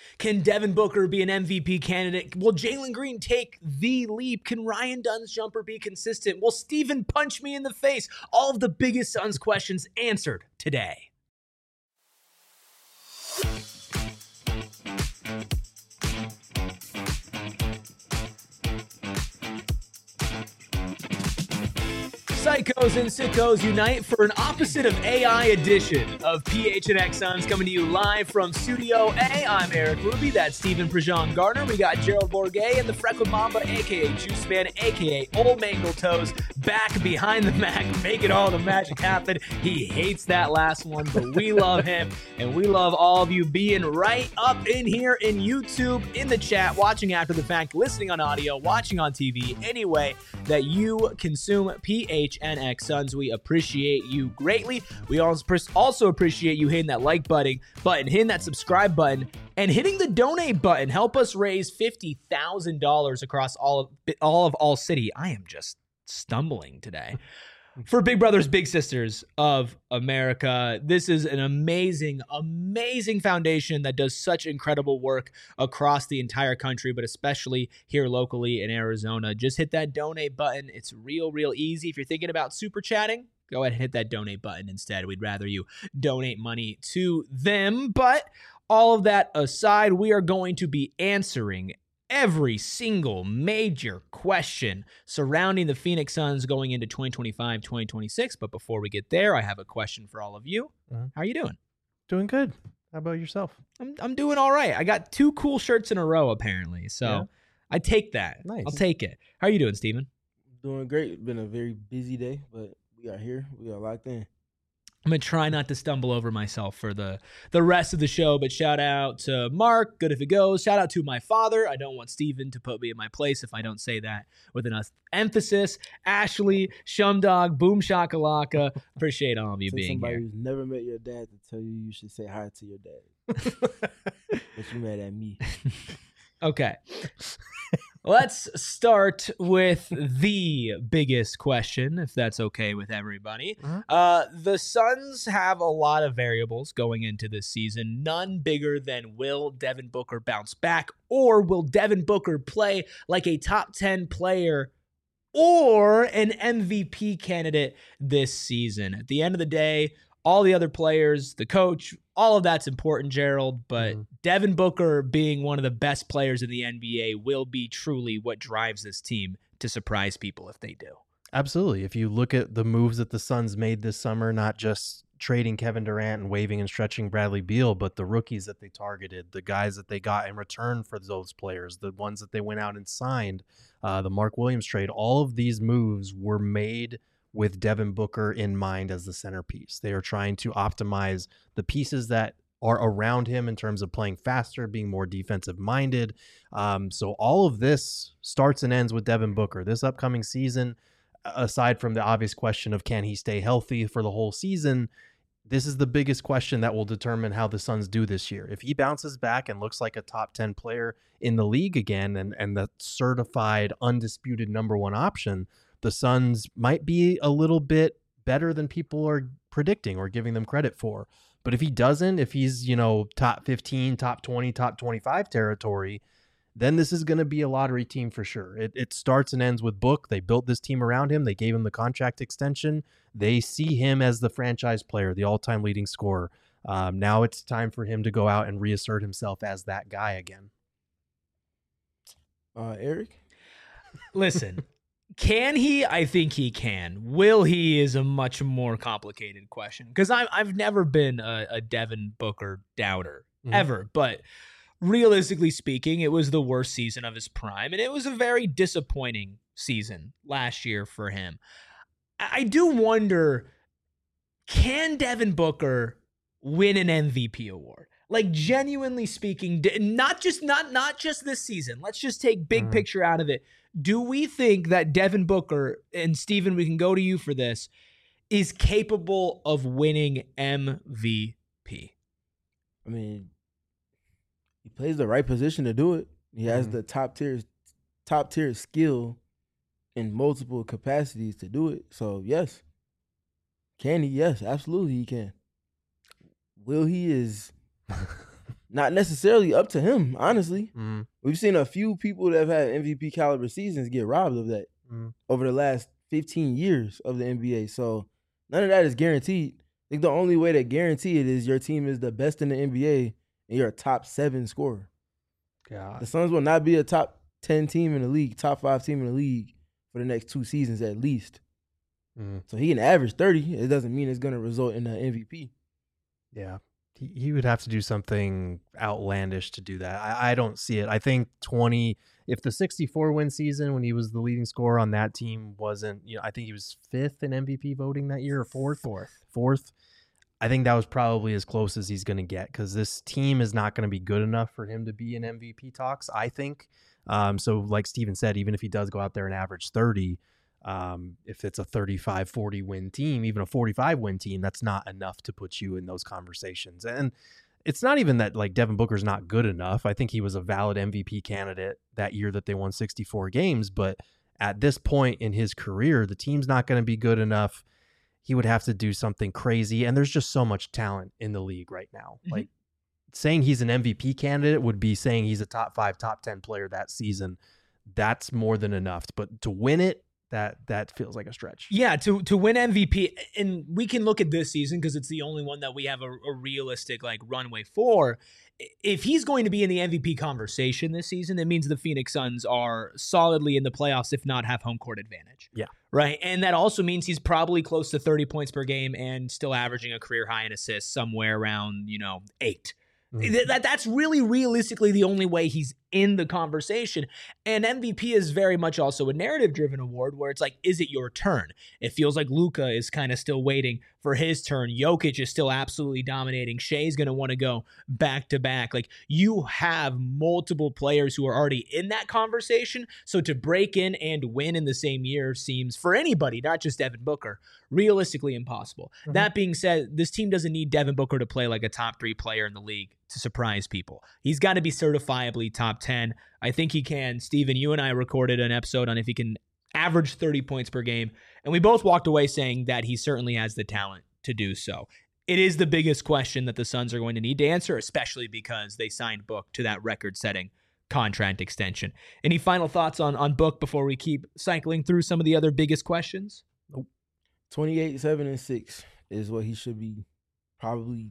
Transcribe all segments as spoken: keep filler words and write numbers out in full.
Can Devin Booker be an M V P candidate? Will Jalen Green take the leap? Can Ryan Dunn's jumper be consistent? Will Steven punch me in the face? All of the biggest Suns questions answered today. Psychos and sickos unite for an opposite of A I edition of P H N X Suns, coming to you live from Studio A. I'm Eric Ruby. That's Stephen Prejean Gardner. We got Gerald Bourguet and the Freckled Mamba, a k a. Juice Man, a k a. Old Mangle Toes, back behind the Mac, making all the magic happen. He hates that last one, but we love him, and we love all of you being right up in here in YouTube, in the chat, watching after the fact, listening on audio, watching on T V, any way that you consume P H N X Suns. We appreciate you greatly. We also appreciate you hitting that like button, button, hitting that subscribe button, and hitting the donate button. Help us raise fifty thousand dollars across all of all of All City. I am just stumbling today. For Big Brothers, Big Sisters of America. This is an amazing, amazing foundation that does such incredible work across the entire country, but especially here locally in Arizona. Just hit that donate button. It's real, real easy. If you're thinking about super chatting, go ahead and hit that donate button instead. We'd rather you donate money to them. But all of that aside, we are going to be answering every single major question surrounding the Phoenix Suns going into twenty twenty-five twenty twenty-six. But before we get there, I have a question for all of you. Uh-huh. How are you doing? Doing good. How about yourself? I'm I'm doing all right. I got two cool shirts in a row, apparently. So yeah. I take that. Nice. I'll take it. How are you doing, Steven? Doing great. It's been a very busy day, but we are here. We are locked in. I'm going to try not to stumble over myself for the, the rest of the show, but shout out to Mark, good if it goes. Shout out to my father. I don't want Steven to put me in my place if I don't say that with enough emphasis. Ashley, Shumdog, Boom Shakalaka. Appreciate all of you Say being somebody here. Who's never met your dad to tell you you should say hi to your dad. But you mad at me. Okay. Let's start with the biggest question, if that's okay with everybody. Uh-huh. Uh, the Suns have a lot of variables going into this season, none bigger than will Devin Booker bounce back, or will Devin Booker play like a top ten player or an M V P candidate this season. At the end of the day, all the other players, the coach, all of that's important, Gerald, but mm-hmm. Devin Booker being one of the best players in the N B A will be truly what drives this team to surprise people if they do. Absolutely. If you look at the moves that the Suns made this summer, not just trading Kevin Durant and waving and stretching Bradley Beal, but the rookies that they targeted, the guys that they got in return for those players, the ones that they went out and signed, uh, the Mark Williams trade, all of these moves were made with Devin Booker in mind as the centerpiece. They are trying to optimize the pieces that are around him in terms of playing faster, being more defensive minded. Um, so all of this starts and ends with Devin Booker. This upcoming season, aside from the obvious question of can he stay healthy for the whole season, this is the biggest question that will determine how the Suns do this year. If he bounces back and looks like a top ten player in the league again and, and the certified, undisputed number one option, the Suns might be a little bit better than people are predicting or giving them credit for. But if he doesn't, if he's, you know, top fifteen, top twenty, top twenty-five territory, then this is going to be a lottery team for sure. It, it starts and ends with Book. They built this team around him. They gave him the contract extension. They see him as the franchise player, the all-time leading scorer. Um, now it's time for him to go out and reassert himself as that guy again. Uh, Eric? Listen. Can he? I think he can. Will he is a much more complicated question because I've never been a, a Devin Booker doubter, mm-hmm. ever. But realistically speaking, it was the worst season of his prime, and it was a very disappointing season last year for him. I do wonder, can Devin Booker win an M V P award? Like, genuinely speaking, not just not not just this season. Let's just take big mm-hmm. picture out of it. Do we think that Devin Booker, and Steven, we can go to you for this, is capable of winning M V P? I mean, he plays the right position to do it. He has mm-hmm. the top tier, top tier skill in multiple capacities to do it. So, yes. Can he? Yes, absolutely he can. Will he is not necessarily up to him, honestly. Mm, We've seen a few people that have had M V P caliber seasons get robbed of that mm. over the last fifteen years of the N B A. So none of that is guaranteed. I think the only way to guarantee it is your team is the best in the N B A and you're a top seven scorer. God. The Suns will not be a top ten team in the league, top five team in the league for the next two seasons at least. Mm. So he can average thirty. It doesn't mean it's going to result in an M V P. Yeah. He, he would have to do something outlandish to do that. I, I don't see it. I think twenty, if the sixty-four win season when he was the leading scorer on that team wasn't, you know, I think he was fifth in M V P voting that year or fourth? Fourth. Fourth. I think that was probably as close as he's going to get because this team is not going to be good enough for him to be in M V P talks, I think. Um, so like Steven said, even if he does go out there and average thirty, um, if it's a thirty-five, forty win team, even a forty-five win team, that's not enough to put you in those conversations. And it's not even that like Devin Booker's not good enough. I think he was a valid M V P candidate that year that they won sixty-four games. But at this point in his career, the team's not going to be good enough. He would have to do something crazy. And there's just so much talent in the league right now. Mm-hmm. Like saying he's an M V P candidate would be saying he's a top five, top ten player that season. That's more than enough. But to win it, that that feels like a stretch. Yeah, to to win M V P, and we can look at this season because it's the only one that we have a, a realistic like runway for. If he's going to be in the M V P conversation this season, that means the Phoenix Suns are solidly in the playoffs, if not have home court advantage. Yeah. Right. And that also means he's probably close to thirty points per game and still averaging a career high in assists somewhere around, you know, eight. Mm-hmm. That That's really realistically the only way he's in the conversation. And M V P is very much also a narrative-driven award where it's like, is it your turn? It feels like Luka is kind of still waiting for his turn. Jokic is still absolutely dominating. Shea's going to want to go back-to-back. Like, you have multiple players who are already in that conversation, so to break in and win in the same year seems, for anybody, not just Devin Booker, realistically impossible. Mm-hmm. That being said, this team doesn't need Devin Booker to play like a top three player in the league to surprise people. He's got to be certifiably top ten. I think he can. Steven, you and I recorded an episode on if he can average thirty points per game, and we both walked away saying that he certainly has the talent to do so. It is the biggest question that the Suns are going to need to answer, especially because they signed Book to that record-setting contract extension. Any final thoughts on, on Book before we keep cycling through some of the other biggest questions? Nope. twenty-eight, seven, and six is what he should be probably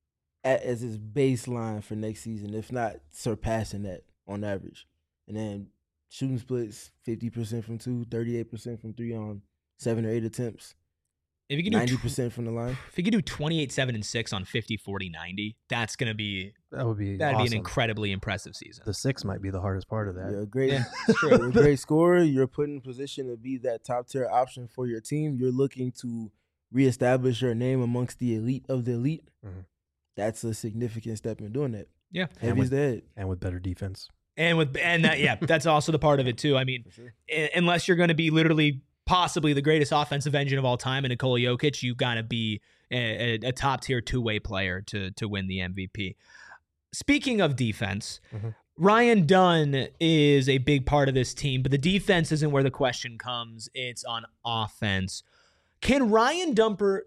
at as his baseline for next season, if not surpassing that on average. And then shooting splits, fifty percent from two, thirty-eight percent from three on seven or eight attempts. If you can ninety percent from the line. If you could do twenty-eight, seven, and six on fifty, forty, ninety, that's going to be that would be that'd awesome. be an incredibly impressive season. The six might be the hardest part of that. You're a great, yeah, you're a great scorer. You're put in position to be that top tier option for your team. You're looking to reestablish your name amongst the elite of the elite. Mm-hmm. That's a significant step in doing that. Yeah, heavy's the head, and with better defense. And with and that yeah, that's also the part of it too. I mean, sure. I- unless you're going to be literally possibly the greatest offensive engine of all time in Nikola Jokic, you've got to be a, a, a top tier two way player to to win the M V P. Speaking of defense, mm-hmm. Ryan Dunn is a big part of this team, but the defense isn't where the question comes. It's on offense. Can Ryan Dumper?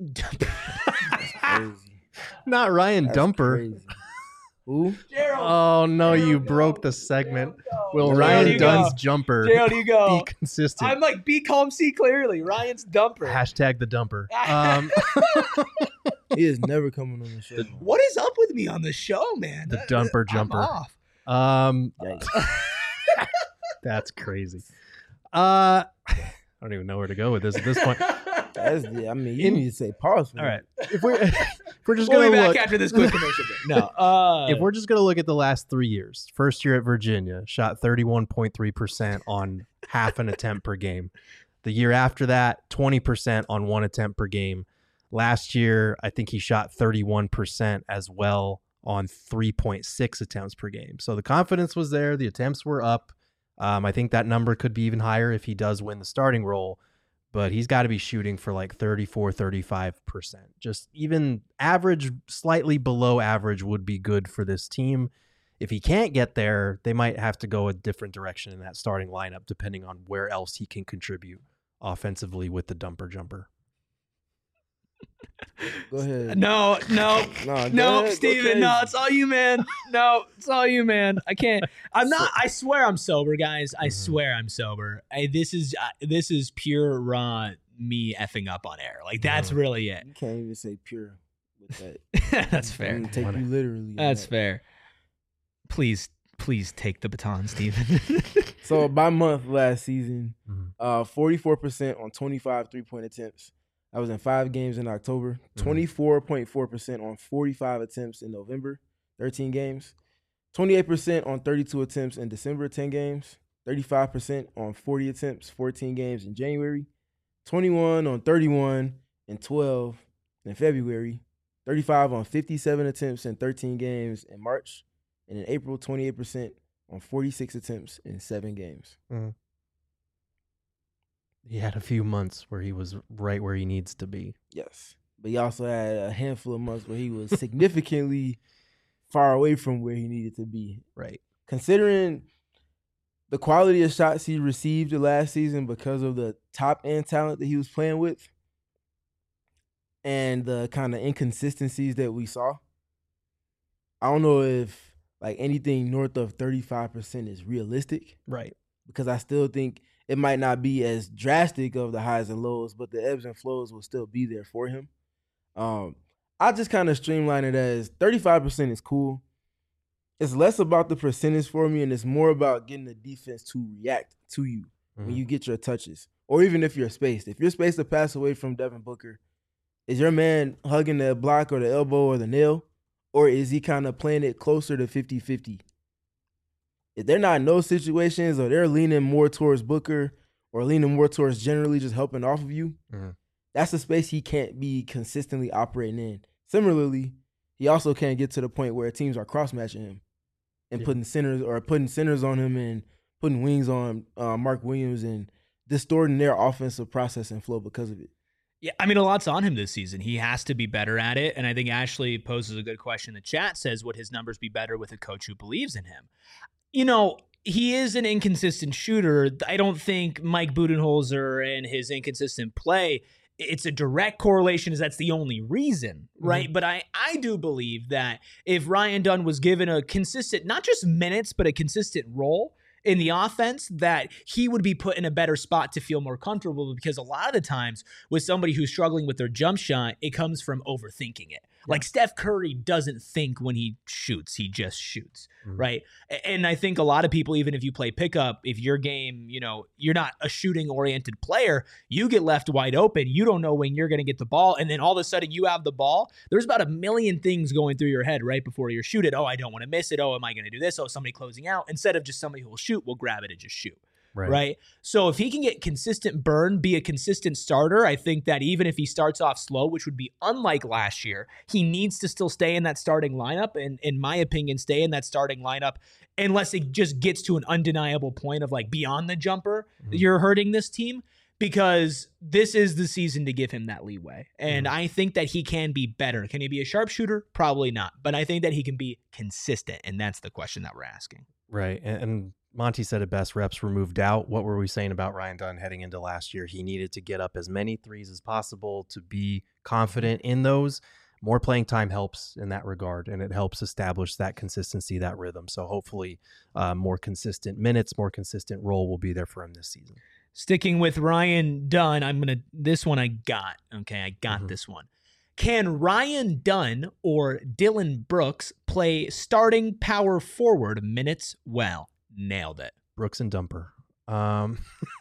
Not Ryan That's Dumper. Crazy. Who? Gerald. Oh no, Gerald, you go. broke the segment. Gerald, Will Gerald, Ryan Dunn's go. jumper Gerald, you go. be consistent? I'm like, be calm, see clearly. Ryan's Dumper. Hashtag the Dumper. Um, He is never coming on the show. What is up with me on the show, man? The Dumper I'm jumper. off. Um, that's crazy. Uh, I don't even know where to go with this at this point. That's the, I mean, you In, need to say pause. All right. If we're, if we're just we'll going to be back look after this quick commercial break. No. Uh, if we're just going to look at the last three years, first year at Virginia, shot thirty-one point three percent on half an attempt per game. The year after that, twenty percent on one attempt per game. Last year, I think he shot thirty-one percent as well on three point six attempts per game. So the confidence was there. The attempts were up. Um, I think that number could be even higher if he does win the starting role, but he's got to be shooting for like thirty-four, thirty-five percent. Just even average, slightly below average would be good for this team. If he can't get there, they might have to go a different direction in that starting lineup, depending on where else he can contribute offensively with the Dumper jumper. Go ahead. No, no, No, no, ahead, Steven, no, it's all you, man. No, it's all you, man. I can't. I'm not. I swear I'm sober, guys. I Mhm. swear I'm sober. I, this is uh, this is pure raw me effing up on air. Like that's Mhm. really it. You can't even say pure with that. That's I'm fair. gonna take you literally. on That's that. fair. Please, please take the baton, Steven. So by month last season, Mhm. uh, forty-four percent on twenty-five three-point attempts. I was in five games in October. Mhm. twenty-four point four percent on forty-five attempts in November, thirteen games. twenty-eight percent on thirty-two attempts in December, ten games. thirty-five percent on forty attempts, fourteen games in January. twenty-one on thirty-one and twelve in February. thirty-five on fifty-seven attempts in thirteen games in March. And in April, twenty-eight percent on forty-six attempts in seven games. He had a few months where he was right where he needs to be. Yes. But he also had a handful of months where he was significantly far away from where he needed to be. Right. Considering the quality of shots he received the last season because of the top end talent that he was playing with and the kind of inconsistencies that we saw, I don't know if like anything north of thirty-five percent is realistic. Right. Because I still think it might not be as drastic of the highs and lows, but the ebbs and flows will still be there for him. Um, I just kind of streamline it as thirty-five percent is cool. It's less about the percentage for me, and it's more about getting the defense to react to you Mhm. when you get your touches, or even if you're spaced. If you're spaced to pass away from Devin Booker, is your man hugging the block or the elbow or the nail, or is he kind of playing it closer to fifty-fifty? If they're not in those situations, or they're leaning more towards Booker or leaning more towards generally just helping off of you, Mhm. that's a space he can't be consistently operating in. Similarly, he also can't get to the point where teams are cross-matching him and Yeah. putting centers or putting centers on him and putting wings on uh, Mark Williams and distorting their offensive process and flow because of it. Yeah, I mean, a lot's on him this season. He has to be better at it. And I think Ashley poses a good question in the chat, says, would his numbers be better with a coach who believes in him? You know, he is an inconsistent shooter. I don't think Mike Budenholzer and his inconsistent play, it's a direct correlation, as that's the only reason, right? Mhm. But I, I do believe that if Ryan Dunn was given a consistent, not just minutes, but a consistent role in the offense, that he would be put in a better spot to feel more comfortable, because a lot of the times with somebody who's struggling with their jump shot, it comes from overthinking it. Like Steph Curry doesn't think when he shoots, he just shoots, Mhm. right? A- And I think a lot of people, even if you play pickup, if your game, you know, you're not a shooting oriented player, you get left wide open. You don't know when you're going to get the ball. And then all of a sudden you have the ball. There's about a million things going through your head right before you shoot it. Oh, I don't want to miss it. Oh, am I going to do this? Oh, somebody closing out. Instead of just somebody who will shoot, will grab it and just shoot. Right. Right. So if he can get consistent burn, be a consistent starter, I think that even if he starts off slow, which would be unlike last year, he needs to still stay in that starting lineup. And in my opinion, stay in that starting lineup unless it just gets to an undeniable point of like beyond the jumper, Mhm. you're hurting this team, because this is the season to give him that leeway. And Mhm. I think that he can be better. Can he be a sharpshooter? Probably not. But I think that he can be consistent. And that's the question that we're asking. Right. And, and Monty said it best, reps were moved out. What were we saying about Ryan Dunn heading into last year? He needed to get up as many threes as possible to be confident in those. More playing time helps in that regard, and it helps establish that consistency, that rhythm. So hopefully uh, more consistent minutes, more consistent role will be there for him this season. Sticking with Ryan Dunn, I'm going to, this one I got. Okay, I got Mhm. this one. Can Ryan Dunn or Dylan Brooks play starting power forward minutes well? Nailed it. Brooks and Dumper. Um,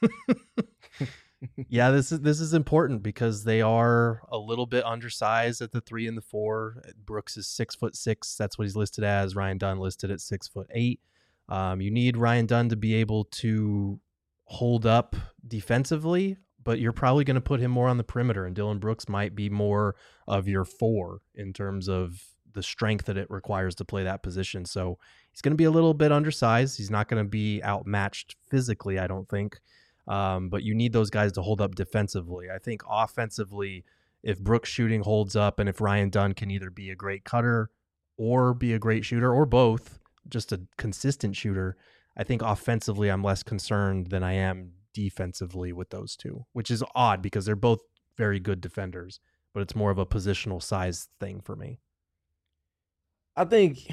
yeah, this is this is important because they are a little bit undersized at the three and the four. Brooks is six foot six. That's what he's listed as. Ryan Dunn listed at six foot eight. Um, you need Ryan Dunn to be able to hold up defensively, but you're probably going to put him more on the perimeter, and Dylan Brooks might be more of your four in terms of the strength that it requires to play that position. So he's going to be a little bit undersized. He's not going to be outmatched physically, I don't think. Um, but you need those guys to hold up defensively. I think offensively, if Brooks shooting holds up and if Ryan Dunn can either be a great cutter or be a great shooter or both, just a consistent shooter, I think offensively I'm less concerned than I am defensively with those two, which is odd because they're both very good defenders. but it's more of a positional size thing for me. I think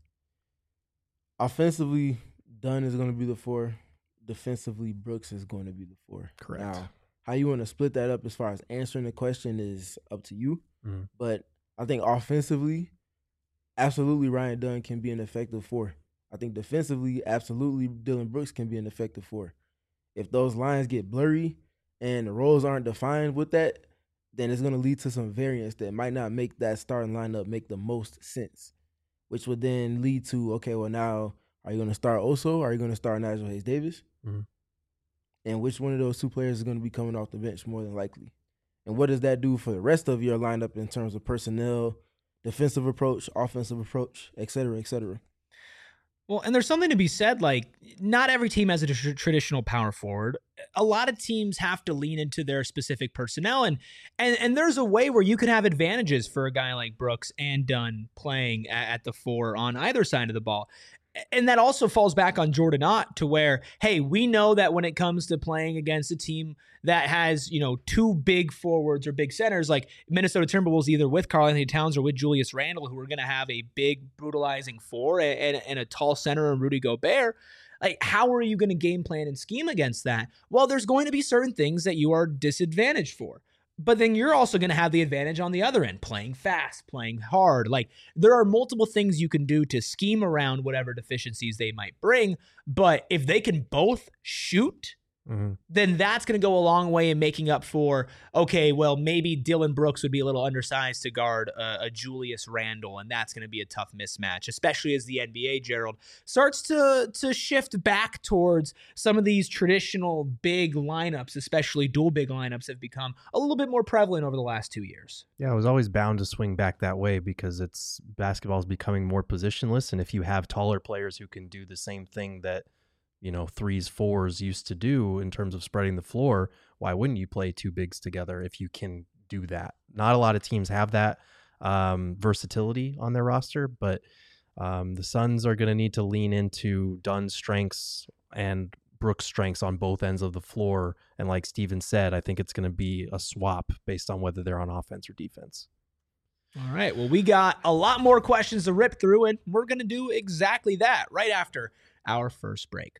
offensively, Dunn is going to be the four. Defensively, Brooks is going to be the four. Correct. Now, how you want to split that up as far as answering the question is up to you. Mm-hmm. But I think offensively, absolutely Ryan Dunn can be an effective four. I think defensively, absolutely Dillon Brooks can be an effective four. If those lines get blurry and the roles aren't defined with that, then it's going to lead to some variance that might not make that starting lineup make the most sense, which would then lead to, okay, well, now are you going to start Oso? Or are you going to start Nigel Hayes-Davis? Mm-hmm. And which one of those two players is going to be coming off the bench more than likely? And what does that do for the rest of your lineup in terms of personnel, defensive approach, offensive approach, et cetera, et cetera? Well, and there's something to be said, like, not every team has a tr- traditional power forward. A lot of teams have to lean into their specific personnel, and and and there's a way where you can have advantages for a guy like Brooks and Dunn playing at, at the four on either side of the ball. And that also falls back on Jordan Ott to where, hey, we know that when it comes to playing against a team that has, you know, two big forwards or big centers, like Minnesota Timberwolves, either with Karl-Anthony Towns or with Julius Randle, who are going to have a big brutalizing four and, and a tall center and Rudy Gobert. Like, how are you going to game plan and scheme against that? Well, there's going to be certain things that you are disadvantaged for. But then you're also going to have the advantage on the other end, playing fast, playing hard. Like, there are multiple things you can do to scheme around whatever deficiencies they might bring. But if they can both shoot, mm-hmm. then that's going to go a long way in making up for, okay, well, maybe Dillon Brooks would be a little undersized to guard a, a Julius Randle, and that's going to be a tough mismatch, especially as the N B A, Gerald, starts to, to shift back towards some of these traditional big lineups, especially dual big lineups, have become a little bit more prevalent over the last two years. Yeah, I was always bound to swing back that way because it's basketball is becoming more positionless, and if you have taller players who can do the same thing that you know, threes, fours used to do in terms of spreading the floor, why wouldn't you play two bigs together if you can do that? Not a lot of teams have that um, versatility on their roster, but um, the Suns are going to need to lean into Dunn's strengths and Brooks' strengths on both ends of the floor. And like Steven said, I think it's going to be a swap based on whether they're on offense or defense. All right. Well, we got a lot more questions to rip through, and we're going to do exactly that right after our first break.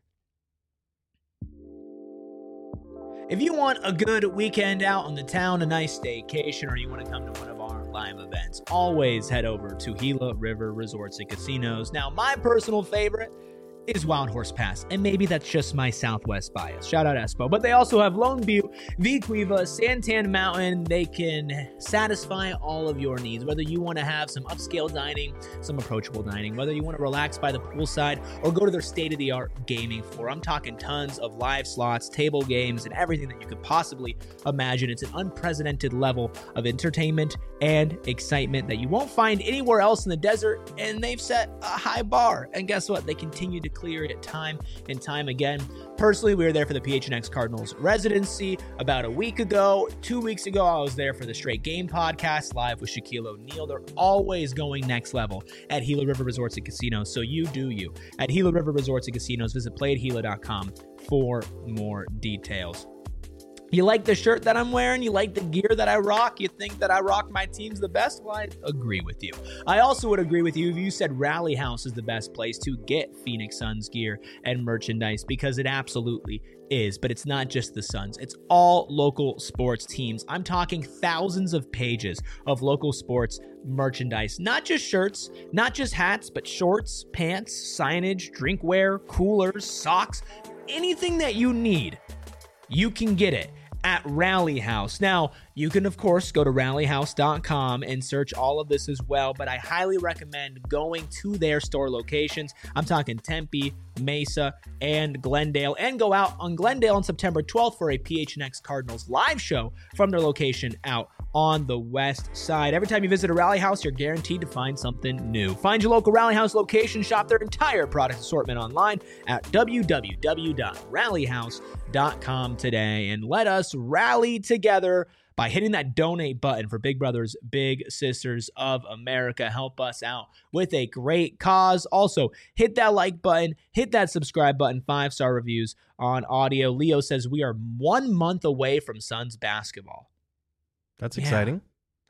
If you want a good weekend out on the town, a nice staycation, or you want to come to one of our live events, always head over to Gila River Resorts and Casinos. Now, my personal favorite is Wild Horse Pass, and maybe that's just my Southwest bias. Shout out Espo. But they also have Lone Butte, Vequiva, Santan Mountain. They can satisfy all of your needs, whether you want to have some upscale dining, some approachable dining, whether you want to relax by the poolside or go to their state-of-the-art gaming floor. I'm talking tons of live slots, table games, and everything that you could possibly imagine. It's an unprecedented level of entertainment and excitement that you won't find anywhere else in the desert, and they've set a high bar. And guess what? They continue to clear it time and time again. Personally, we were there for the P H N X Cardinals residency about a week ago. Two weeks ago, I was there for the Straight Game podcast live with Shaquille O'Neal. They're always going next level at Gila River Resorts and Casinos, so you do you. At Gila River Resorts and Casinos, visit play at gila dot com for more details. You like the shirt that I'm wearing? You like the gear that I rock? You think that I rock my teams the best? Well, I agree with you. I also would agree with you if you said Rally House is the best place to get Phoenix Suns gear and merchandise, because it absolutely is. But it's not just the Suns. It's all local sports teams. I'm talking thousands of pages of local sports merchandise, not just shirts, not just hats, but shorts, pants, signage, drinkware, coolers, socks, anything that you need. You can get it at Rally House. Now, you can, of course, go to rally house dot com and search all of this as well, but I highly recommend going to their store locations. I'm talking Tempe, Mesa, and Glendale, and go out on Glendale on September twelfth for a P H N X Cardinals live show from their location out on the west side. Every time you visit a Rally House, you're guaranteed to find something new. Find your local Rally House location, shop their entire product assortment online at w w w dot rally house dot com today, and let us rally together by hitting that donate button for Big Brothers Big Sisters of America. Help us out with a great cause. Also, hit that like button, hit that subscribe button, five-star reviews on audio. Leo says we are one month away from Suns basketball. That's yeah, exciting.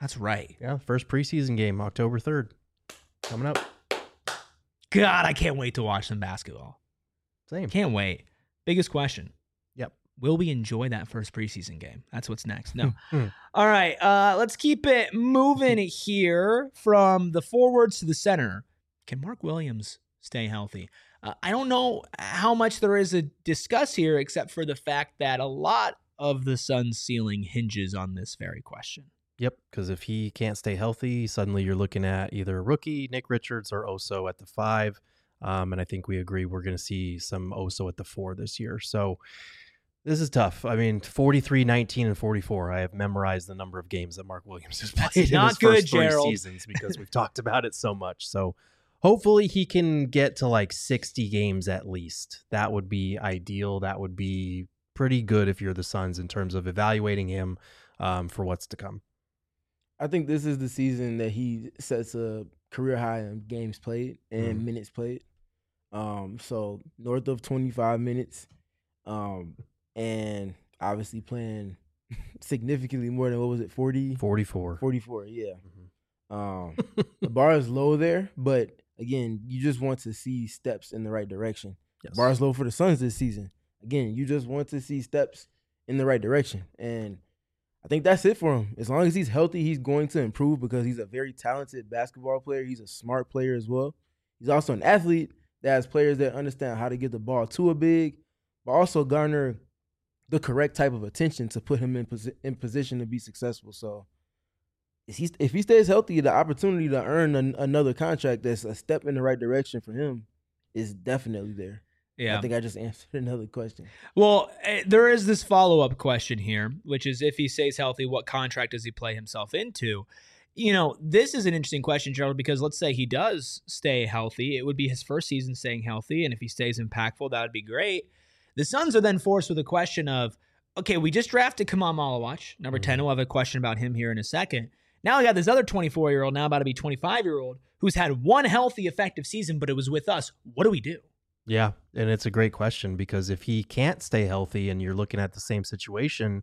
That's right. Yeah, first preseason game, October third, coming up. God, I can't wait to watch some basketball. Same. Can't wait. Biggest question. Yep. Will we enjoy that first preseason game? That's what's next. No. All right. Uh, let's keep it moving here from the forwards to the center. Can Mark Williams stay healthy? Uh, I don't know how much there is to discuss here, except for the fact that a lot of the Suns' ceiling hinges on this very question. Yep, because if he can't stay healthy, suddenly you're looking at either a rookie, Nick Richards, or Oso at the five. Um, and I think we agree we're going to see some Oso at the four this year. So this is tough. I mean, forty-three, nineteen, and forty-four. I have memorized the number of games that Mark Williams has played That's in not his good, first three Gerald. seasons because we've talked about it so much. So hopefully he can get to like sixty games at least. That would be ideal. That would be pretty good if you're the Suns in terms of evaluating him um, for what's to come. I think this is the season that he sets a career high in games played and Mm. minutes played. Um, so north of twenty-five minutes, um, and obviously playing significantly more than, what was it, forty? forty-four. forty-four, yeah. Mhm. Um, the bar is low there, but again, you just want to see steps in the right direction. Yes. Bar is low for the Suns this season. Again, you just want to see steps in the right direction. And I think that's it for him. As long as he's healthy, he's going to improve because he's a very talented basketball player. He's a smart player as well. He's also an athlete that has players that understand how to get the ball to a big, but also garner the correct type of attention to put him in, posi- in position to be successful. So if he, if he stays healthy, the opportunity to earn an, another contract that's a step in the right direction for him is definitely there. Yeah. I think I just answered another question. Well, uh, there is this follow-up question here, which is if he stays healthy, what contract does he play himself into? You know, this is an interesting question, Gerald, because let's say he does stay healthy. It would be his first season staying healthy, and if he stays impactful, that would be great. The Suns are then forced with a question of, okay, we just drafted Kamal Malawach, number ten. We'll have a question about him here in a second. Now we got this other twenty-four-year-old, now about to be twenty-five-year-old, who's had one healthy, effective season, but it was with us. What do we do? Yeah, and it's a great question because if he can't stay healthy and you're looking at the same situation,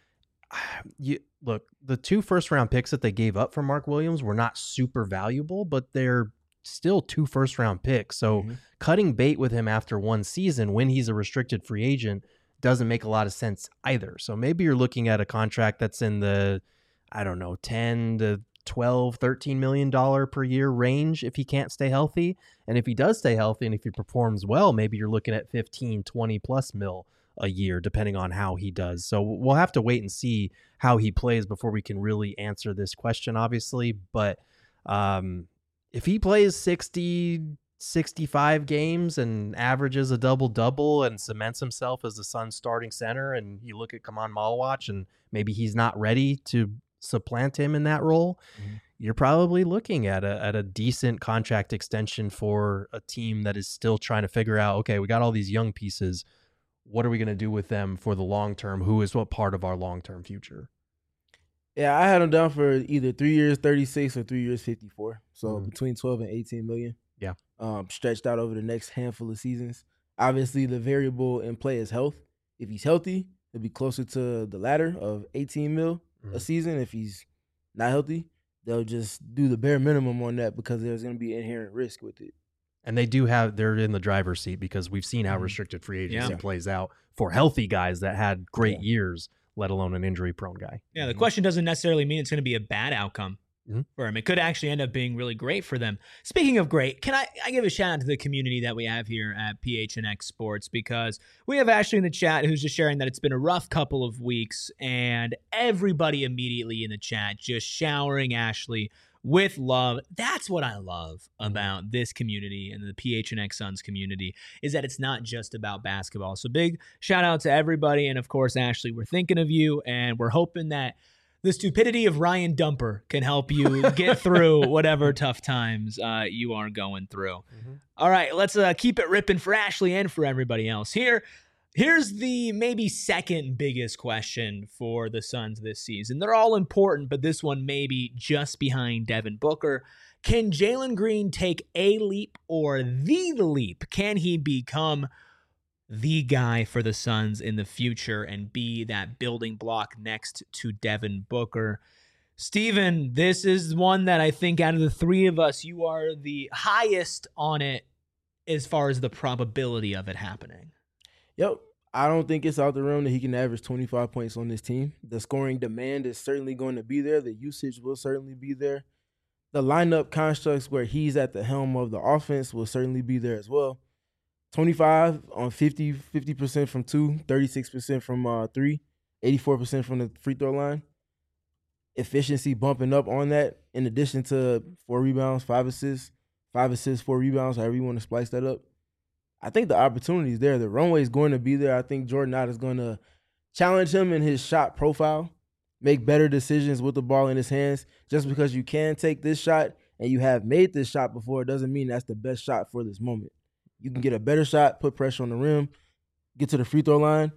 you look, the two first round picks that they gave up for Mark Williams were not super valuable, but they're still two first round picks. So Mm-hmm. cutting bait with him after one season when he's a restricted free agent doesn't make a lot of sense either. So maybe you're looking at a contract that's in the, I don't know, ten to twelve, thirteen million dollars per year range if he can't stay healthy. And if he does stay healthy and if he performs well, maybe you're looking at fifteen, twenty plus mil a year, depending on how he does. So we'll have to wait and see how he plays before we can really answer this question, obviously. But um, if he plays sixty, sixty-five games and averages a double-double and cements himself as the Suns starting center, and you look at Kamal Malawach and maybe he's not ready to supplant him in that role, Mhm. you're probably looking at a at a decent contract extension for a team that is still trying to figure out, okay, we got all these young pieces. What are we going to do with them for the long term? Who is what part of our long-term future? Yeah, I had him down for either three years, thirty-six, or three years, fifty-four. So Mhm. between twelve and eighteen million. Yeah. Um, stretched out over the next handful of seasons. Obviously, the variable in play is health. If he's healthy, it'll be closer to the latter of eighteen mil a Mhm. season. If he's not healthy, they'll just do the bare minimum on that because there's going to be inherent risk with it. And they do have, they're in the driver's seat because we've seen how Mhm. restricted free agency Yeah. plays out for healthy guys that had great Yeah. years, let alone an injury-prone guy. Yeah, the Mhm. question doesn't necessarily mean it's going to be a bad outcome Mhm. for him. It could actually end up being really great for them. Speaking of great, can I, I give a shout out to the community that we have here at P H N X Sports, because we have Ashley in the chat who's just sharing that it's been a rough couple of weeks, and everybody immediately in the chat just showering Ashley with love. That's what I love about this community and the P H N X Suns community, is that it's not just about basketball. So big shout out to everybody. And of course, Ashley, we're thinking of you, and we're hoping that the stupidity of Ryan Dumper can help you get through whatever tough times uh, you are going through. All right, let's uh, keep it ripping for Ashley and for everybody else. Here, here's the maybe second biggest question for the Suns this season. They're all important, but this one may be just behind Devin Booker. Can Jalen Green take a leap or the leap? Can he become the guy for the Suns in the future and be that building block next to Devin Booker? Steven, this is one that I think out of the three of us, you are the highest on it as far as the probability of it happening. Yep. I don't think it's out the realm that he can average twenty-five points on this team. The scoring demand is certainly going to be there. The usage will certainly be there. The lineup constructs where he's at the helm of the offense will certainly be there as well. twenty-five on fifty, fifty percent from two, thirty-six percent from uh, three, eighty-four percent from the free throw line. Efficiency bumping up on that in addition to four rebounds, five assists, five assists, four rebounds, however you want to splice that up. I think the opportunity is there. The runway is going to be there. I think Jordan Ott is going to challenge him in his shot profile, make better decisions with the ball in his hands. Just because you can take this shot and you have made this shot before doesn't mean that's the best shot for this moment. You can get a better shot, put pressure on the rim, get to the free throw line.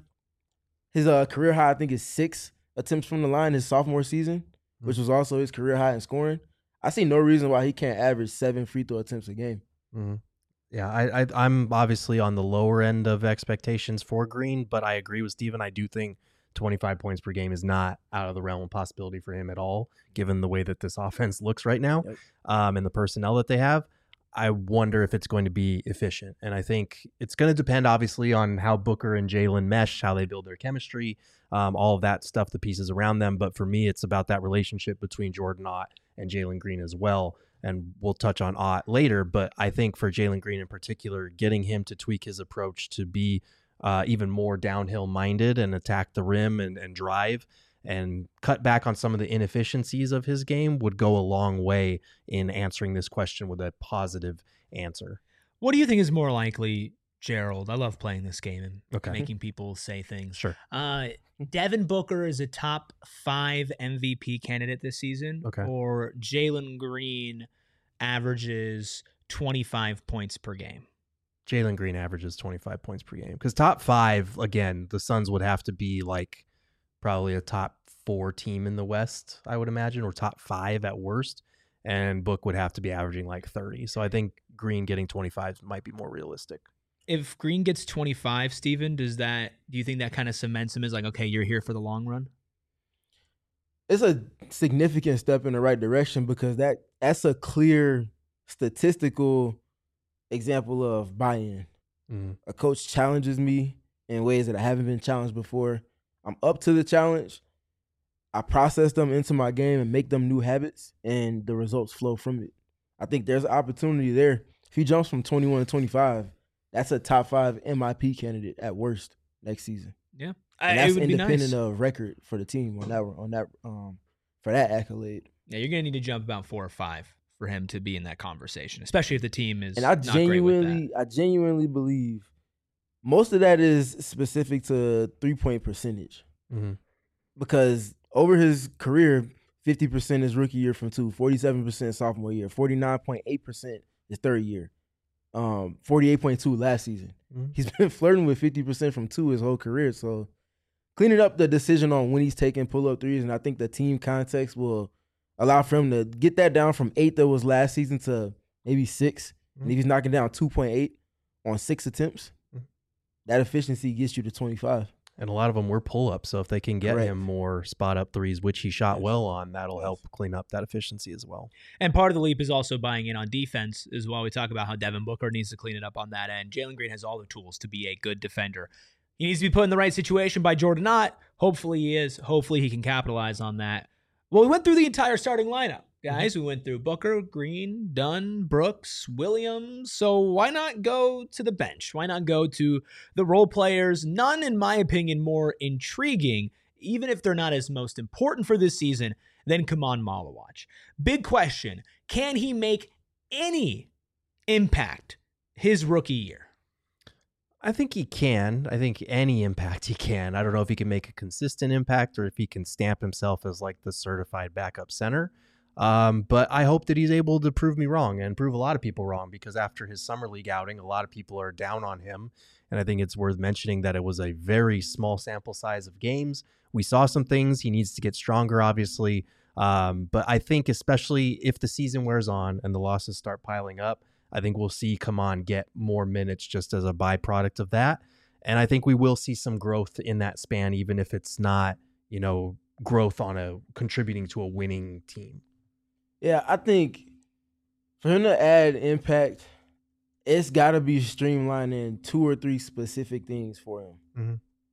His uh, career high, I think, is six attempts from the line his sophomore season, mm-hmm. which was also his career high in scoring. I see no reason why he can't average seven free throw attempts a game. Mm-hmm. Yeah, I, I, I'm obviously on the lower end of expectations for Green, but I agree with Steven. I do think twenty-five points per game is not out of the realm of possibility for him at all, given the way that this offense looks right now, yep. um, and the personnel that they have. I wonder if it's going to be efficient. And I think it's going to depend, obviously, on how Booker and Jalen mesh, how they build their chemistry, um, all of that stuff, the pieces around them. But for me, it's about that relationship between Jordan Ott and Jalen Green as well. And we'll touch on Ott later. But I think for Jalen Green in particular, getting him to tweak his approach to be uh, even more downhill minded and attack the rim and, and drive and cut back on some of the inefficiencies of his game would go a long way in answering this question with a positive answer. What do you think is more likely, Gerald? I love playing this game and okay. making people say things. Sure. Uh, Devin Booker is a top five M V P candidate this season, okay. or Jalen Green averages twenty-five points per game. Jalen Green averages twenty-five points per game. Because top five, again, the Suns would have to be like probably a top four team in the West, I would imagine, or top five at worst. And Book would have to be averaging like thirty. So I think Green getting twenty-five might be more realistic. If Green gets twenty-five, Steven, does that, do you think that kind of cements him as like, okay, you're here for the long run? It's a significant step in the right direction because that that's a clear statistical example of buy-in. Mm-hmm. A coach challenges me in ways that I haven't been challenged before. I'm up to the challenge. I process them into my game and make them new habits, and the results flow from it. I think there's an opportunity there. If he jumps from twenty-one to twenty-five, that's a top five M I P candidate at worst next season. Yeah, and that's it would independent be nice. of record for the team on that on that um for that accolade. Yeah, you're gonna need to jump about four or five for him to be in that conversation, especially if the team is. And I not genuinely, great with that. I genuinely believe most of that is specific to three point percentage, mm-hmm. because over his career, fifty percent is rookie year from two, forty-seven percent sophomore year, forty-nine point eight percent his third year, um, forty-eight point two last season. Mm-hmm. He's been flirting with fifty percent from two his whole career. So cleaning up the decision on when he's taking pull-up threes, and I think the team context will allow for him to get that down from eight that was last season to maybe six. Mm-hmm. And if he's knocking down two point eight on six attempts, mm-hmm. that efficiency gets you to twenty-five. And a lot of them were pull-ups, so if they can get Correct. him more spot-up threes, which he shot yes. well on, that'll yes. help clean up that efficiency as well. And part of the leap is also buying in on defense as well. We talk about how Devin Booker needs to clean it up on that end. Jalen Green has all the tools to be a good defender. He needs to be put in the right situation by Jordan Ott. Hopefully he is. Hopefully he can capitalize on that. Well, we went through the entire starting lineup, guys. Mm-hmm. We went through Booker, Green, Dunn, Brooks, Williams. So why not go to the bench? Why not go to the role players? None, in my opinion, more intriguing, even if they're not as most important for this season, than Kemon Malawach. Big question. Can he make any impact his rookie year? I think he can. I think any impact he can. I don't know if he can make a consistent impact or if he can stamp himself as like the certified backup center. Um, but I hope that he's able to prove me wrong and prove a lot of people wrong, because after his summer league outing, a lot of people are down on him. And I think it's worth mentioning that it was a very small sample size of games. We saw some things. He needs to get stronger, obviously. Um, but I think especially if the season wears on and the losses start piling up, I think we'll see Kemon get more minutes just as a byproduct of that. And I think we will see some growth in that span, even if it's not, you know, growth on a contributing to a winning team. Yeah, I think for him to add impact, it's got to be streamlining two or three specific things for him. Mm-hmm.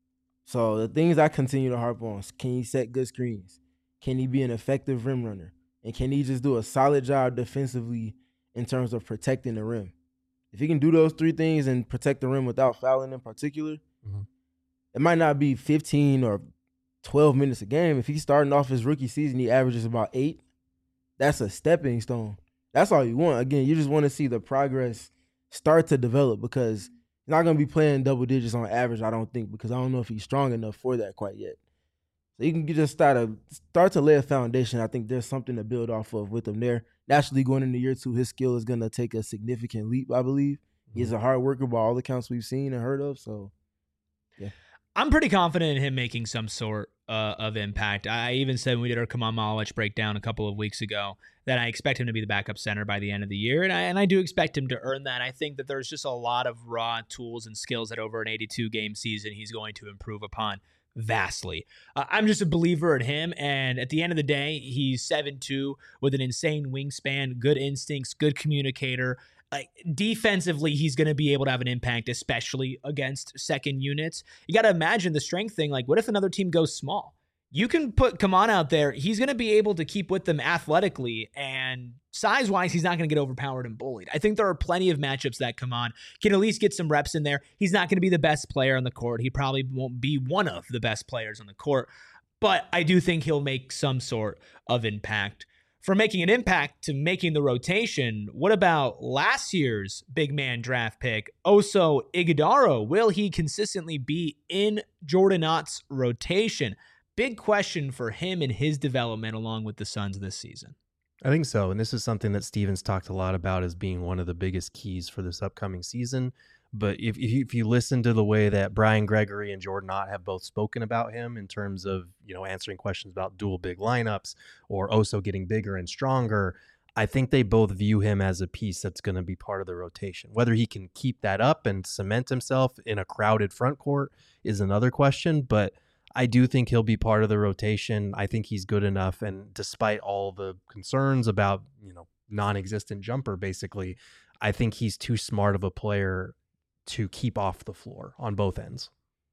So the things I continue to harp on: can he set good screens? Can he be an effective rim runner? And can he just do a solid job defensively in terms of protecting the rim? If he can do those three things and protect the rim without fouling in particular, mm-hmm. it might not be fifteen or twelve minutes a game. If he's starting off his rookie season, he averages about eight. That's a stepping stone. That's all you want. Again, you just want to see the progress start to develop, because he's not going to be playing double digits on average, I don't think, because I don't know if he's strong enough for that quite yet. So you can just start to, start to lay a foundation. I think there's something to build off of with him there. Naturally, going into year two, his skill is going to take a significant leap, I believe. Mm-hmm. He's a hard worker by all accounts we've seen and heard of. So, yeah. I'm pretty confident in him making some sort uh, of impact. I even said when we did our Kamal Malich breakdown a couple of weeks ago that I expect him to be the backup center by the end of the year, and I, and I do expect him to earn that. I think that there's just a lot of raw tools and skills that over an eighty-two game season he's going to improve upon vastly. Uh, I'm just a believer in him, and at the end of the day, he's seven two with an insane wingspan, good instincts, good communicator. Like, defensively, he's going to be able to have an impact, especially against second units. You got to imagine the strength thing. Like, what if another team goes small? You can put Kaman out there. He's going to be able to keep with them athletically, and size-wise, he's not going to get overpowered and bullied. I think there are plenty of matchups that Kaman can at least get some reps in there. He's not going to be the best player on the court. He probably won't be one of the best players on the court, but I do think he'll make some sort of impact. From making an impact to making the rotation, what about last year's big man draft pick, Oso Ighodaro? Will he consistently be in Jordan Ott's rotation? Big question for him and his development along with the Suns this season. I think so, and this is something that Stevens talked a lot about as being one of the biggest keys for this upcoming season. But if if you, if you listen to the way that Brian Gregory and Jordan Ott have both spoken about him in terms of, you know, answering questions about dual big lineups or Oso getting bigger and stronger, I think they both view him as a piece that's going to be part of the rotation. Whether he can keep that up and cement himself in a crowded front court is another question, but I do think he'll be part of the rotation. I think he's good enough, and despite all the concerns about, you know, non-existent jumper, basically, I think he's too smart of a player to keep off the floor on both ends.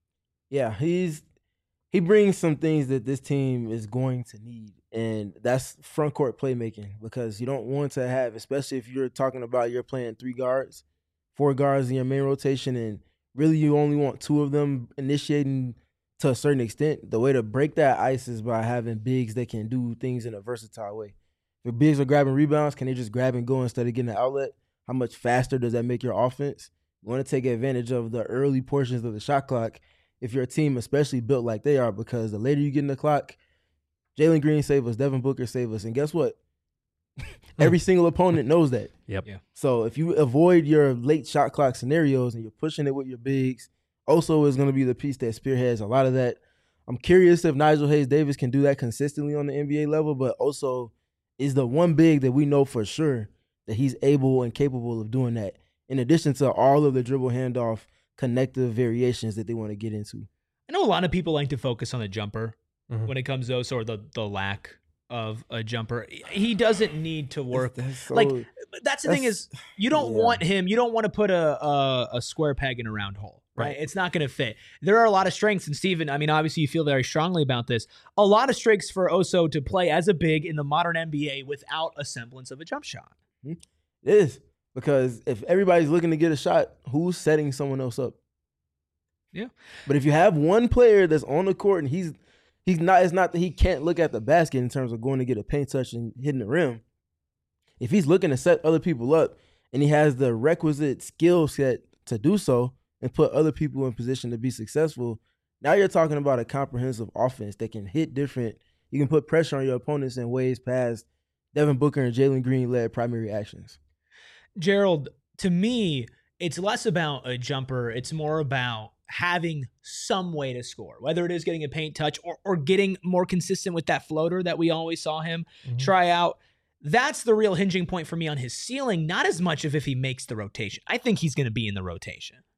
Yeah, he's he brings some things that this team is going to need, and that's front court playmaking, because you don't want to have, especially if you're talking about you're playing three guards, four guards in your main rotation, and really you only want two of them initiating to a certain extent. The way to break that ice is by having bigs that can do things in a versatile way. If bigs are grabbing rebounds, can they just grab and go instead of getting an outlet? How much faster does that make your offense? You want to take advantage of the early portions of the shot clock if you're a team especially built like they are, because the later you get in the clock, Jalen Green save us, Devin Booker save us, and guess what? Every single opponent knows that. Yep. Yeah. So if you avoid your late shot clock scenarios and you're pushing it with your bigs, Oso is going to be the piece that spearheads a lot of that. I'm curious if Nigel Hayes-Davis can do that consistently on the N B A level, but Oso is the one big that we know for sure that he's able and capable of doing that, in addition to all of the dribble handoff connective variations that they want to get into. I know a lot of people like to focus on the jumper mm-hmm. when it comes to Oso, or the, the lack of a jumper. He doesn't need to work. That's, that's so, like, that's the that's, thing is, you don't yeah. want him, you don't want to put a, a, a square peg in a round hole. Right. Right. It's not going to fit. There are a lot of strengths. And Steven, I mean, obviously you feel very strongly about this. A lot of strengths for Oso to play as a big in the modern N B A without a semblance of a jump shot. It is. Because if everybody's looking to get a shot, who's setting someone else up? Yeah. But if you have one player that's on the court and he's he's not, it's not that he can't look at the basket in terms of going to get a paint touch and hitting the rim. If he's looking to set other people up and he has the requisite skill set to do so and put other people in position to be successful, now you're talking about a comprehensive offense that can hit different. You can put pressure on your opponents in ways past Devin Booker and Jalen Green-led primary actions. Gerald, to me, it's less about a jumper. It's more about having some way to score, whether it is getting a paint touch or, or getting more consistent with that floater that we always saw him mm-hmm. try out. That's the real hinging point for me on his ceiling, not as much of if he makes the rotation. I think he's going to be in the rotation.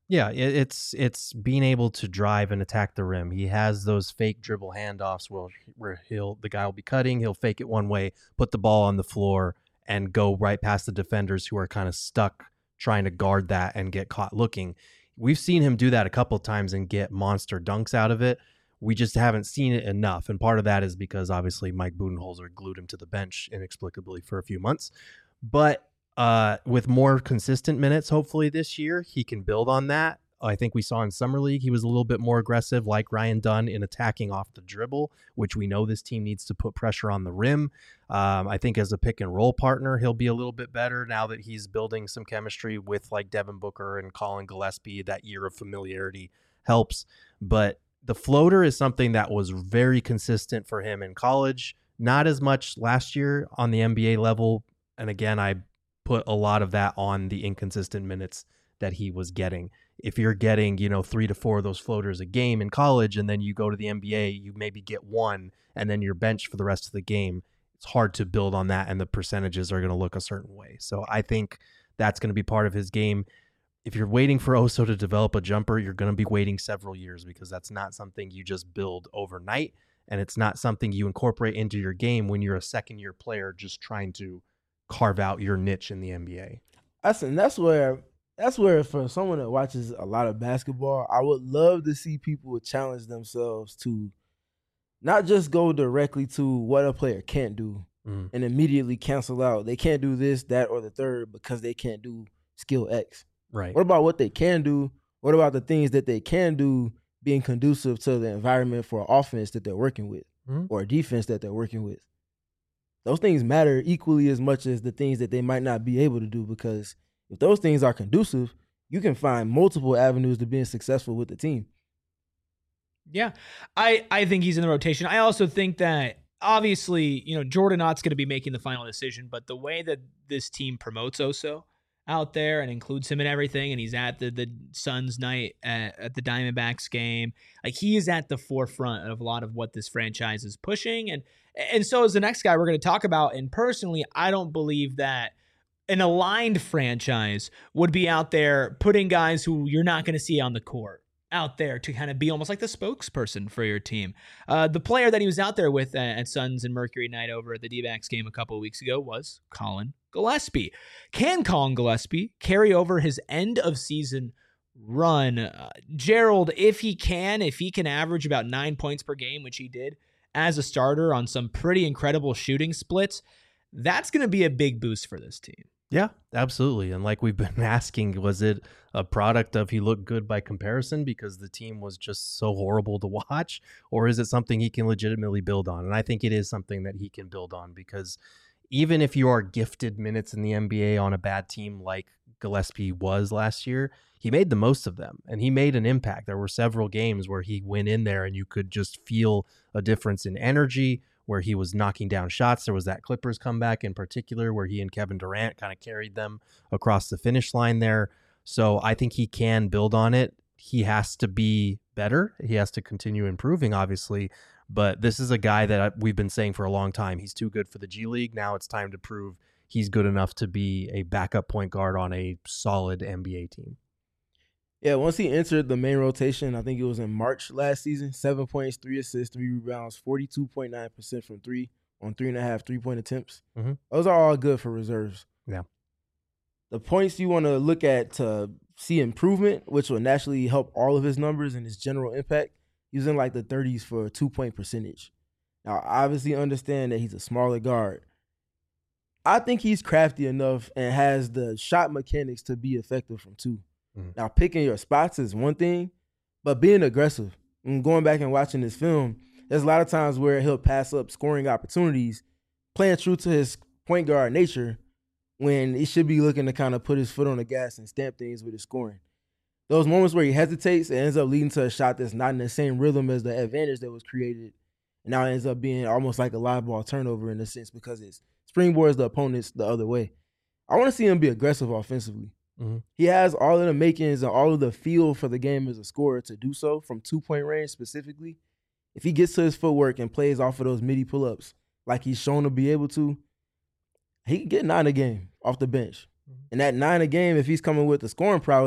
Yeah, it, it's it's being able to drive and attack the rim. He has those fake dribble handoffs where, where he'll the guy will be cutting, he'll fake it one way, put the ball on the floor, and go right past the defenders who are kind of stuck trying to guard that and get caught looking. We've seen him do that a couple of times and get monster dunks out of it. We just haven't seen it enough, and part of that is because obviously Mike Budenholzer glued him to the bench inexplicably for a few months. But uh, with more consistent minutes, hopefully this year, he can build on that. I think we saw in Summer League, he was a little bit more aggressive, like Ryan Dunn, in attacking off the dribble, which we know this team needs to put pressure on the rim. Um, I think as a pick and roll partner, he'll be a little bit better now that he's building some chemistry with like Devin Booker and Colin Gillespie. That year of familiarity helps. But the floater is something that was very consistent for him in college, not as much last year on the N B A level. And again, I put a lot of that on the inconsistent minutes that he was getting. If you're getting, you know, three to four of those floaters a game in college, and then you go to the N B A, you maybe get one, and then you're benched for the rest of the game, it's hard to build on that, and the percentages are going to look a certain way. So I think that's going to be part of his game. If you're waiting for Oso to develop a jumper, you're going to be waiting several years, because that's not something you just build overnight, and it's not something you incorporate into your game when you're a second-year player just trying to carve out your niche in the N B A. That's, and that's where that's where for someone that watches a lot of basketball, I would love to see people challenge themselves to not just go directly to what a player can't do mm. and immediately cancel out. They can't do this, that, or the third because they can't do skill X. Right. What about what they can do? What about the things that they can do being conducive to the environment for an offense that they're working with mm. or a defense that they're working with? Those things matter equally as much as the things that they might not be able to do, because if those things are conducive, you can find multiple avenues to being successful with the team. Yeah, I, I think he's in the rotation. I also think that obviously, you know, Jordan Ott's going to be making the final decision, but the way that this team promotes Oso out there and includes him in everything, and he's at the, the Suns night at, at the Diamondbacks game, like he is at the forefront of a lot of what this franchise is pushing. And And so is the next guy we're going to talk about. And personally, I don't believe that an aligned franchise would be out there putting guys who you're not going to see on the court out there to kind of be almost like the spokesperson for your team. Uh, the player that he was out there with at, at Suns and Mercury night over at the D-backs game a couple of weeks ago was Colin Gillespie. Can Colin Gillespie carry over his end of season run? Uh, Gerald, if he can, if he can average about nine points per game, which he did as a starter on some pretty incredible shooting splits, that's going to be a big boost for this team. Yeah, absolutely. And like we've been asking, was it a product of he looked good by comparison because the team was just so horrible to watch, or is it something he can legitimately build on? And I think it is something that he can build on, because even if you are gifted minutes in the N B A on a bad team like Gillespie was last year, he made the most of them and he made an impact. There were several games where he went in there and you could just feel a difference in energy, where he was knocking down shots. There was that Clippers comeback in particular where he and Kevin Durant kind of carried them across the finish line there. So I think he can build on it. He has to be better. He has to continue improving, obviously. But this is a guy that we've been saying for a long time. He's too good for the G League. Now it's time to prove he's good enough to be a backup point guard on a solid N B A team. Yeah, once he entered the main rotation, I think it was in March last season, seven points, three assists, three rebounds, forty-two point nine percent from three on three and a half three-point attempts. Mm-hmm. Those are all good for reserves. Yeah. The points you want to look at to see improvement, which will naturally help all of his numbers and his general impact, he was in like the thirties for a two-point percentage. Now, obviously understand that he's a smaller guard. I think he's crafty enough and has the shot mechanics to be effective from two. Mm-hmm. Now, picking your spots is one thing, but being aggressive and going back and watching this film, there's a lot of times where he'll pass up scoring opportunities, playing true to his point guard nature, when he should be looking to kind of put his foot on the gas and stamp things with his scoring. Those moments where he hesitates, it ends up leading to a shot that's not in the same rhythm as the advantage that was created. And now it ends up being almost like a live ball turnover in a sense, because it springboards the opponents the other way. I want to see him be aggressive offensively. Mm-hmm. He has all of the makings and all of the feel for the game as a scorer to do so from two-point range specifically. If he gets to his footwork and plays off of those midi pull-ups like he's shown to be able to, he can get nine a game off the bench. Mm-hmm. And that nine a game, if he's coming with the scoring prowess,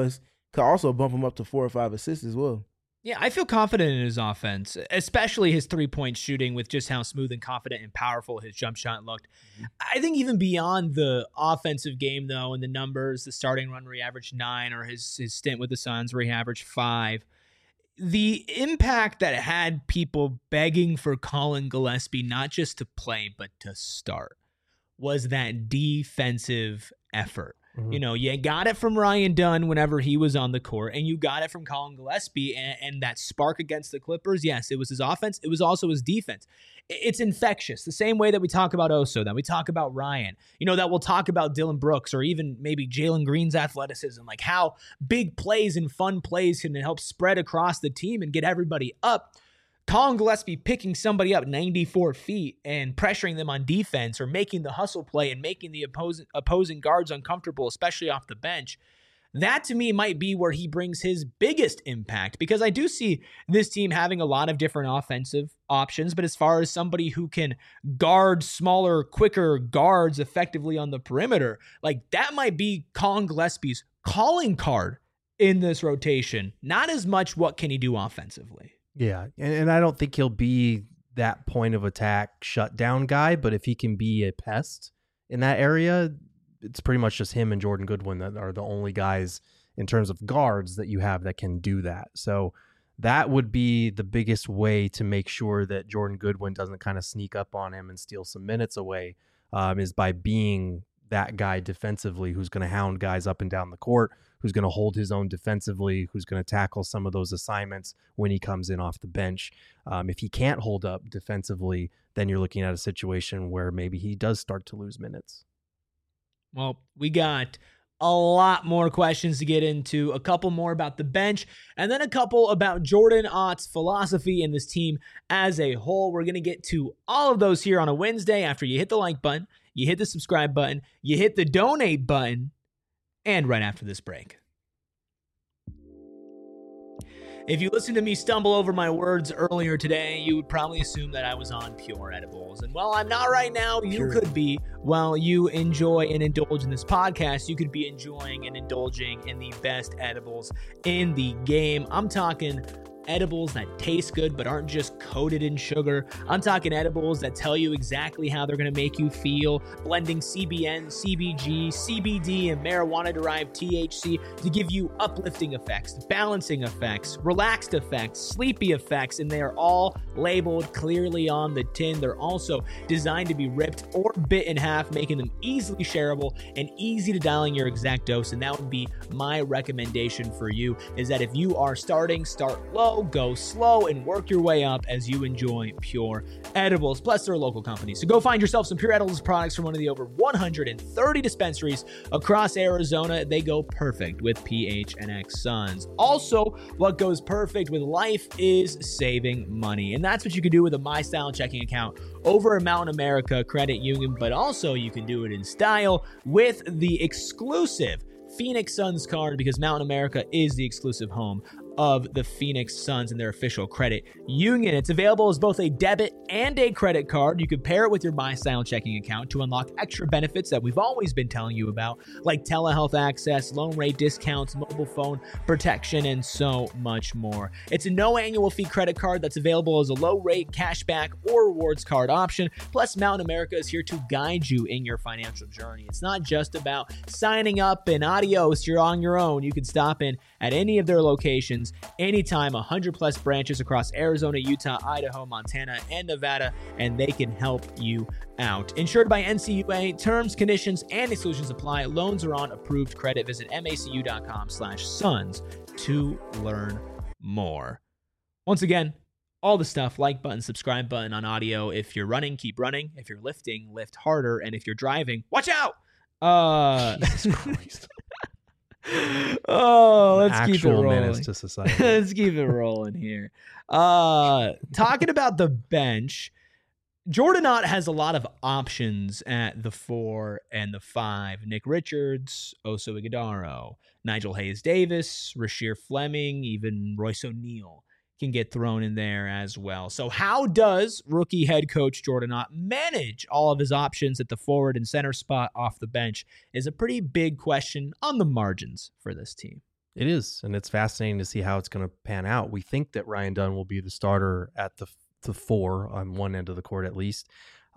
Could also bump him up to four or five assists as well. Yeah, I feel confident in his offense, especially his three-point shooting with just how smooth and confident and powerful his jump shot looked. Mm-hmm. I think even beyond the offensive game, though, and the numbers, the starting run where he averaged nine, or his, his stint with the Suns where he averaged five, the impact that it had people begging for Colin Gillespie not just to play, but to start, was that defensive effort. Mm-hmm. You know, you got it from Ryan Dunn whenever he was on the court, and you got it from Colin Gillespie, and, and that spark against the Clippers. Yes, it was his offense. It was also his defense. It's infectious. The same way that we talk about Oso, that we talk about Ryan, you know, that we'll talk about Dylan Brooks, or even maybe Jalen Green's athleticism, like how big plays and fun plays can help spread across the team and get everybody up. Colin Gillespie picking somebody up ninety-four feet and pressuring them on defense, or making the hustle play and making the opposing opposing guards uncomfortable, especially off the bench. That to me might be where he brings his biggest impact, because I do see this team having a lot of different offensive options, but as far as somebody who can guard smaller, quicker guards effectively on the perimeter, like that might be Colin Gillespie's calling card in this rotation. Not as much what can he do offensively. Yeah, and, and I don't think he'll be that point of attack shutdown guy, but if he can be a pest in that area, it's pretty much just him and Jordan Goodwin that are the only guys in terms of guards that you have that can do that. So that would be the biggest way to make sure that Jordan Goodwin doesn't kind of sneak up on him and steal some minutes away, um, is by being that guy defensively who's going to hound guys up and down the court, who's going to hold his own defensively, who's going to tackle some of those assignments when he comes in off the bench. Um, if he can't hold up defensively, then you're looking at a situation where maybe he does start to lose minutes. Well, we got a lot more questions to get into, a couple more about the bench, and then a couple about Jordan Ott's philosophy and this team as a whole. We're going to get to all of those here on a Wednesday after you hit the like button, you hit the subscribe button, you hit the donate button, and right after this break. If you listened to me stumble over my words earlier today, you would probably assume that I was on Pure Edibles. And while I'm not right now, you Pure. could be. While you enjoy and indulge in this podcast, you could be enjoying and indulging in the best edibles in the game. I'm talking edibles that taste good but aren't just coated in sugar. I'm talking edibles that tell you exactly how they're going to make you feel, blending C B N, C B G, C B D, and marijuana-derived T H C to give you uplifting effects, balancing effects, relaxed effects, sleepy effects, and they are all labeled clearly on the tin. They're also designed to be ripped or bit in half, making them easily shareable and easy to dial in your exact dose. And that would be my recommendation for you, is that if you are starting, start low, go slow, and work your way up as you enjoy Pure Edibles. Plus, they're a local company, so go find yourself some Pure Edibles products from one of the over one hundred thirty dispensaries across Arizona. They go perfect with P H N X Suns. Also, what goes perfect with life is saving money, and that's what you can do with a MyStyle checking account over at Mountain America Credit Union, but also you can do it in style with the exclusive Phoenix Suns card, because Mountain America is the exclusive home of the Phoenix Suns and their official credit union. It's available as both a debit and a credit card. You can pair it with your MyStyle checking account to unlock extra benefits that we've always been telling you about, like telehealth access, loan rate discounts, mobile phone protection, and so much more. It's a no annual fee credit card that's available as a low rate cashback or rewards card option. Plus, Mountain America is here to guide you in your financial journey. It's not just about signing up and adios, you're on your own. You can stop in at any of their locations anytime, one hundred plus branches across Arizona, Utah, Idaho, Montana, and Nevada, and they can help you out. Insured by N C U A, terms, conditions, and exclusions apply. Loans are on approved credit. Visit macu.com slash suns to learn more. Once again, all the stuff, like button, subscribe button on audio. If you're running, keep running. If you're lifting, lift harder. And if you're driving, watch out! Uh, Jesus Christ. Oh, let's Actual keep it rolling. Menace to society. Let's keep it rolling here. Uh, talking about the bench, Jordan Ott has a lot of options at the four and the five. Nick Richards, Oso Ighodaro, Nigel Hayes-Davis, Rasheer Fleming, even Royce O'Neal can get thrown in there as well. So how does rookie head coach Jordan Ott manage all of his options at the forward and center spot off the bench is a pretty big question on the margins for this team. It is, and it's fascinating to see how it's going to pan out. We think that Ryan Dunn will be the starter at the the four on one end of the court at least,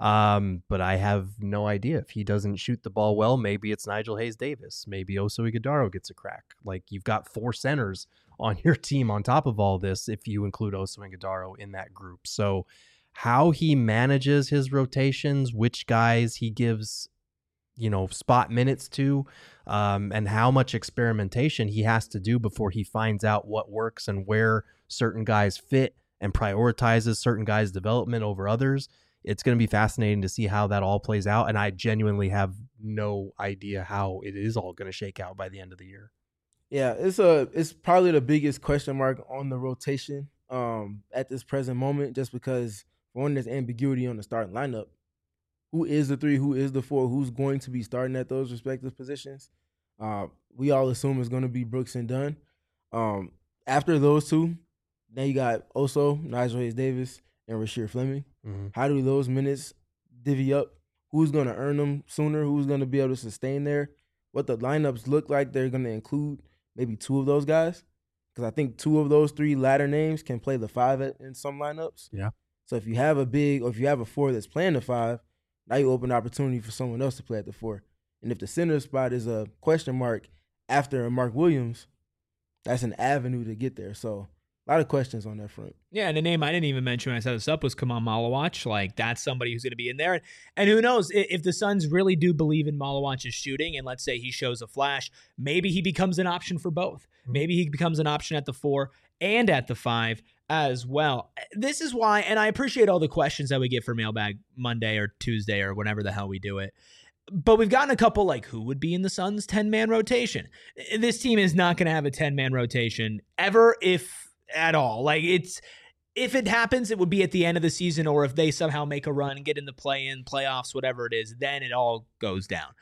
um, but I have no idea. If he doesn't shoot the ball well, maybe it's Nigel Hayes-Davis. Maybe Oso Ighodaro gets a crack. Like, you've got four centers on your team on top of all this if you include Oso Ighodaro in that group. So how he manages his rotations, which guys he gives, you know, spot minutes to, um, and how much experimentation he has to do before he finds out what works and where certain guys fit and prioritizes certain guys' development over others. It's going to be fascinating to see how that all plays out. And I genuinely have no idea how it is all going to shake out by the end of the year. Yeah, it's a it's probably the biggest question mark on the rotation um, at this present moment, just because, for one, there's ambiguity on the starting lineup. Who is the three? Who is the four? Who's going to be starting at those respective positions? Uh, we all assume it's going to be Brooks and Dunn. Um, after those two, then you got Oso, Nigel Hayes-Davis, and Rasheer Fleming. Mm-hmm. How do those minutes divvy up? Who's going to earn them sooner? Who's going to be able to sustain there? What the lineups look like they're going to include maybe two of those guys? Because I think two of those three latter names can play the five at, in some lineups. Yeah. So if you have a big, or if you have a four that's playing the five, now you open opportunity for someone else to play at the four. And if the center spot is a question mark after a Mark Williams, that's an avenue to get there. So a lot of questions on that front. Yeah, and a name I didn't even mention when I set this up was Kaman Malawach. Like, that's somebody who's going to be in there. And who knows, if the Suns really do believe in Malawach's shooting, and let's say he shows a flash, maybe he becomes an option for both. Maybe he becomes an option at the four and at the five as well. This is why, and I appreciate all the questions that we get for Mailbag Monday or Tuesday or whenever the hell we do it. But we've gotten a couple like, who would be in the Suns' ten-man rotation? This team is not going to have a ten-man rotation ever, if at all. Like, it's, if it happens, it would be at the end of the season, or if they somehow make a run and get in the play-in, playoffs, whatever it is, then it all goes down.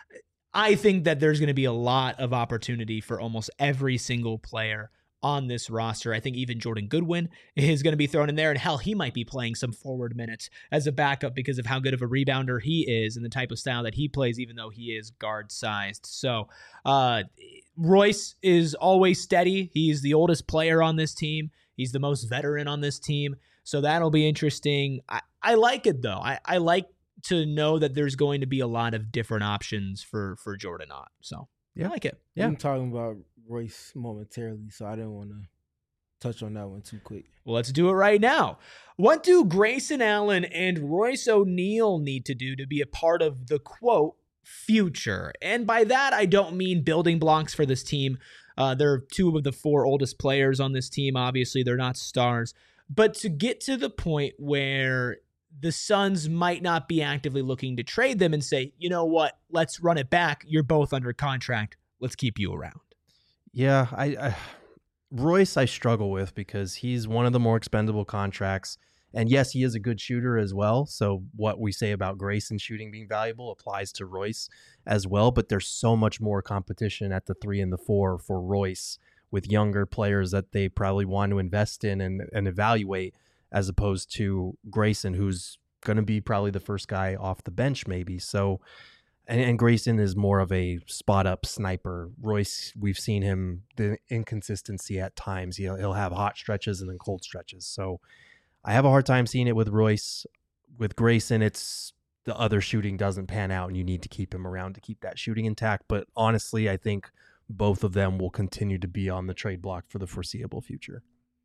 I think that there's going to be a lot of opportunity for almost every single player on this roster. I think even Jordan Goodwin is going to be thrown in there, and hell, he might be playing some forward minutes as a backup because of how good of a rebounder he is and the type of style that he plays, even though he is guard sized. So uh, Royce is always steady. He's the oldest player on this team. He's the most veteran on this team. So that'll be interesting. I, I like it though. I, I like to know that there's going to be a lot of different options for, for Jordan Ott. So yeah. I like it. Yeah. I'm talking about Royce momentarily, so I didn't want to touch on that one too quick. Well, let's do it right now. What do Grayson Allen and Royce O'Neal need to do to be a part of the, quote, future? And by that, I don't mean building blocks for this team. Uh, they're two of the four oldest players on this team. Obviously, they're not stars. But to get to the point where the Suns might not be actively looking to trade them and say, you know what, let's run it back. You're both under contract. Let's keep you around. Yeah, I, I Royce I struggle with because he's one of the more expendable contracts. And yes, he is a good shooter as well. So what we say about Grayson shooting being valuable applies to Royce as well. But there's so much more competition at the three and the four for Royce with younger players that they probably want to invest in and, and evaluate, as opposed to Grayson, who's going to be probably the first guy off the bench maybe. So, and, and Grayson is more of a spot-up sniper. Royce, we've seen him, the inconsistency at times. He'll, he'll have hot stretches and then cold stretches. So I have a hard time seeing it with Royce. With Grayson, it's the other shooting doesn't pan out, and you need to keep him around to keep that shooting intact. But honestly, I think both of them will continue to be on the trade block for the foreseeable future.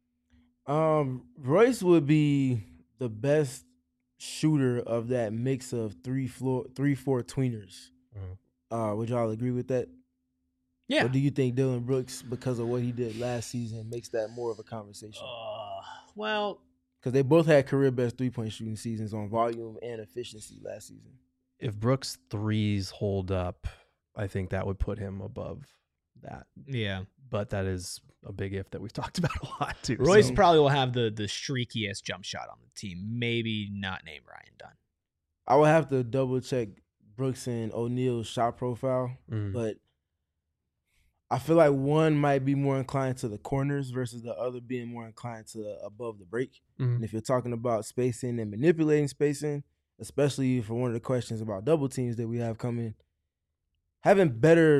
Um, Royce would be the best shooter of that mix of three floor, three four tweeners. Mm-hmm. Uh, would y'all agree with that? Yeah. Or do you think Dylan Brooks, because of what he did last season, makes that more of a conversation? Uh, well, because they both had career best three point shooting seasons on volume and efficiency last season. If Brooks' threes hold up, I think that would put him above that. Yeah. But that is a big if that we've talked about a lot too. Royce so. probably will have the the streakiest jump shot on the team. Maybe not named Ryan Dunn. I would have to double check Brooks and O'Neal's shot profile, mm. but I feel like one might be more inclined to the corners versus the other being more inclined to above the break. Mm. And if you're talking about spacing and manipulating spacing, especially for one of the questions about double teams that we have coming, having better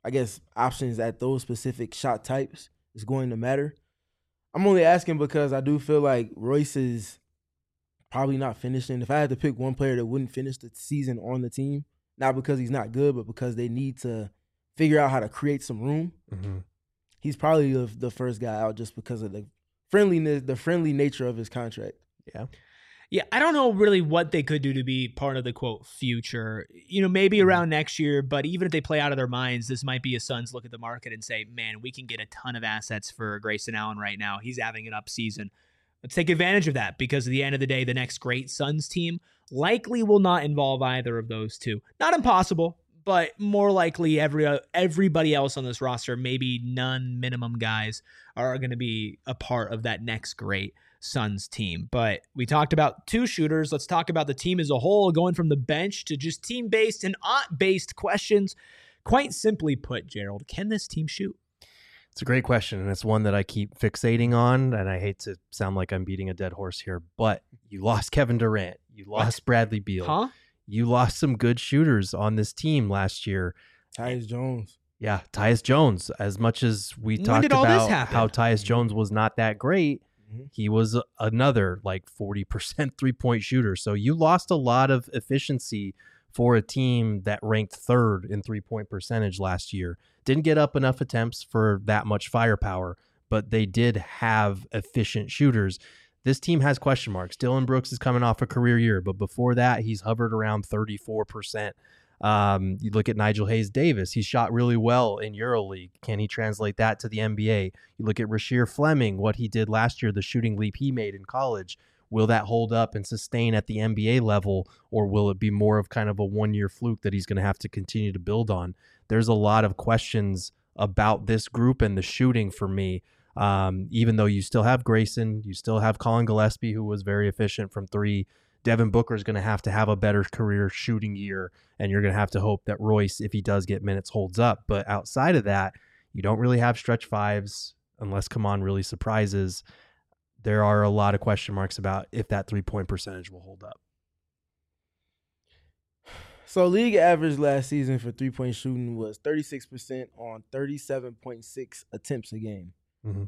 I guess, options at those specific shot types is going to matter. I'm only asking because I do feel like Royce is probably not finishing. If I had to pick one player that wouldn't finish the season on the team, not because he's not good, but because they need to figure out how to create some room, mm-hmm. he's probably the, the first guy out just because of the friendliness, the friendly nature of his contract. Yeah. Yeah, I don't know really what they could do to be part of the, quote, future. You know, maybe around next year, but even if they play out of their minds, this might be a Suns look at the market and say, man, we can get a ton of assets for Grayson Allen right now. He's having an up season. Let's take advantage of that because at the end of the day, the next great Suns team likely will not involve either of those two. Not impossible, but more likely every uh, everybody else on this roster, maybe none minimum guys, are going to be a part of that next great Suns team. But we talked about two shooters. Let's talk about the team as a whole, going from the bench to just team-based and aunt-based questions. Quite simply put, Gerald, can this team shoot? It's a great question, and it's one that I keep fixating on, and I hate to sound like I'm beating a dead horse here, but you lost Kevin Durant. You lost what? Bradley Beal. Huh? You lost some good shooters on this team last year. Tyus Jones. Yeah, Tyus Jones. As much as we when talked did all about this happen? how Tyus Jones was not that great, he was another like forty percent three-point shooter. So you lost a lot of efficiency for a team that ranked third in three-point percentage last year. Didn't get up enough attempts for that much firepower, but they did have efficient shooters. This team has question marks. Dillon Brooks is coming off a career year, but before that, he's hovered around thirty-four percent. Um, you look at Nigel Hayes-Davis. He shot really well in EuroLeague. Can he translate that to the N B A? You look at Rasheer Fleming, what he did last year, the shooting leap he made in college. Will that hold up and sustain at the N B A level, or will it be more of kind of a one-year fluke that he's going to have to continue to build on? There's a lot of questions about this group and the shooting for me. Um, even though you still have Grayson, you still have Colin Gillespie, who was very efficient from three. Devin Booker is going to have to have a better career shooting year, and you're going to have to hope that Royce, if he does get minutes, holds up. But outside of that, you don't really have stretch fives unless Kaman really surprises. There are a lot of question marks about if that three-point percentage will hold up. So league average last season for three-point shooting was thirty-six percent on thirty-seven point six attempts a game. Mm-hmm.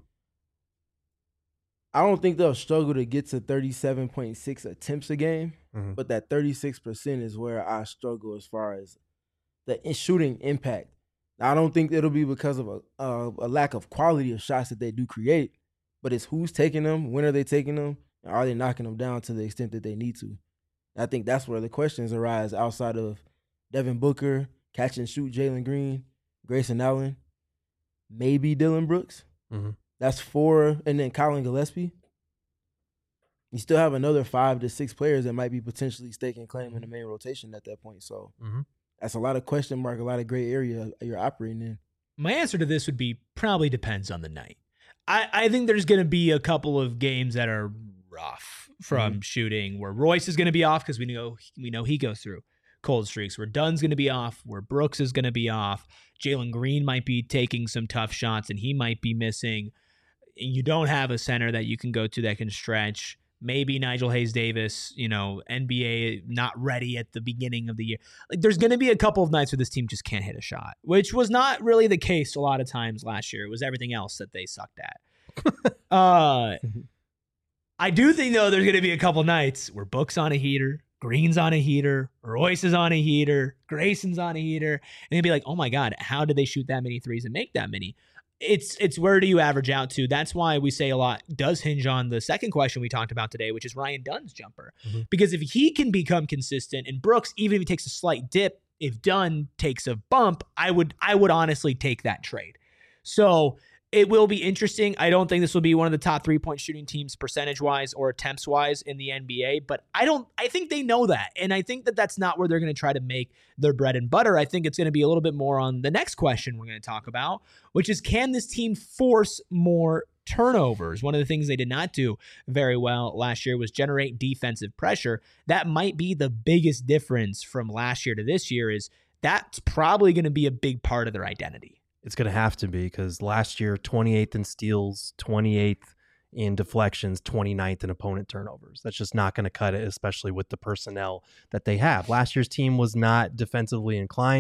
I don't think they'll struggle to get to thirty-seven point six attempts a game, mm-hmm. but that thirty-six percent is where I struggle as far as the shooting impact. Now, I don't think it'll be because of a, uh, a lack of quality of shots that they do create, but it's who's taking them, when are they taking them, and are they knocking them down to the extent that they need to? I think that's where the questions arise outside of Devin Booker, catch and shoot Jalen Green, Grayson Allen, maybe Dillon Brooks. Mm-hmm. That's four, and then Colin Gillespie. You still have another five to six players that might be potentially staking claim in the main rotation at that point. So mm-hmm. that's a lot of question mark, a lot of gray area you're operating in. My answer to this would be probably depends on the night. I, I think there's going to be a couple of games that are rough from mm-hmm. shooting where Royce is going to be off because we know we know he goes through cold streaks, where Dunn's going to be off, where Brooks is going to be off. Jalen Green might be taking some tough shots and he might be missing. You don't have a center that you can go to that can stretch. Maybe Nigel Hayes-Davis, you know, N B A not ready at the beginning of the year. Like, there's going to be a couple of nights where this team just can't hit a shot, which was not really the case a lot of times last year. It was everything else that they sucked at. uh, I do think, though, there's going to be a couple nights where Book's on a heater, Green's on a heater, Royce is on a heater, Grayson's on a heater, and they'd be like, oh my God, how did they shoot that many threes and make that many? It's it's where do you average out to? That's why we say a lot does hinge on the second question we talked about today, which is Ryan Dunn's jumper. Mm-hmm. Because if he can become consistent, and Brooks, even if he takes a slight dip, if Dunn takes a bump, I would I would honestly take that trade. So it will be interesting. I don't think this will be one of the top three-point shooting teams percentage-wise or attempts-wise in the N B A, but I don't. I think they know that, and I think that that's not where they're going to try to make their bread and butter. I think it's going to be a little bit more on the next question we're going to talk about, which is, can this team force more turnovers? One of the things they did not do very well last year was generate defensive pressure. That might be the biggest difference from last year to this year. Is that's probably going to be a big part of their identity. It's going to have to be, because last year, twenty-eighth in steals, twenty-eighth in deflections, twenty-ninth in opponent turnovers. That's just not going to cut it, especially with the personnel that they have. Last year's team was not defensively inclined.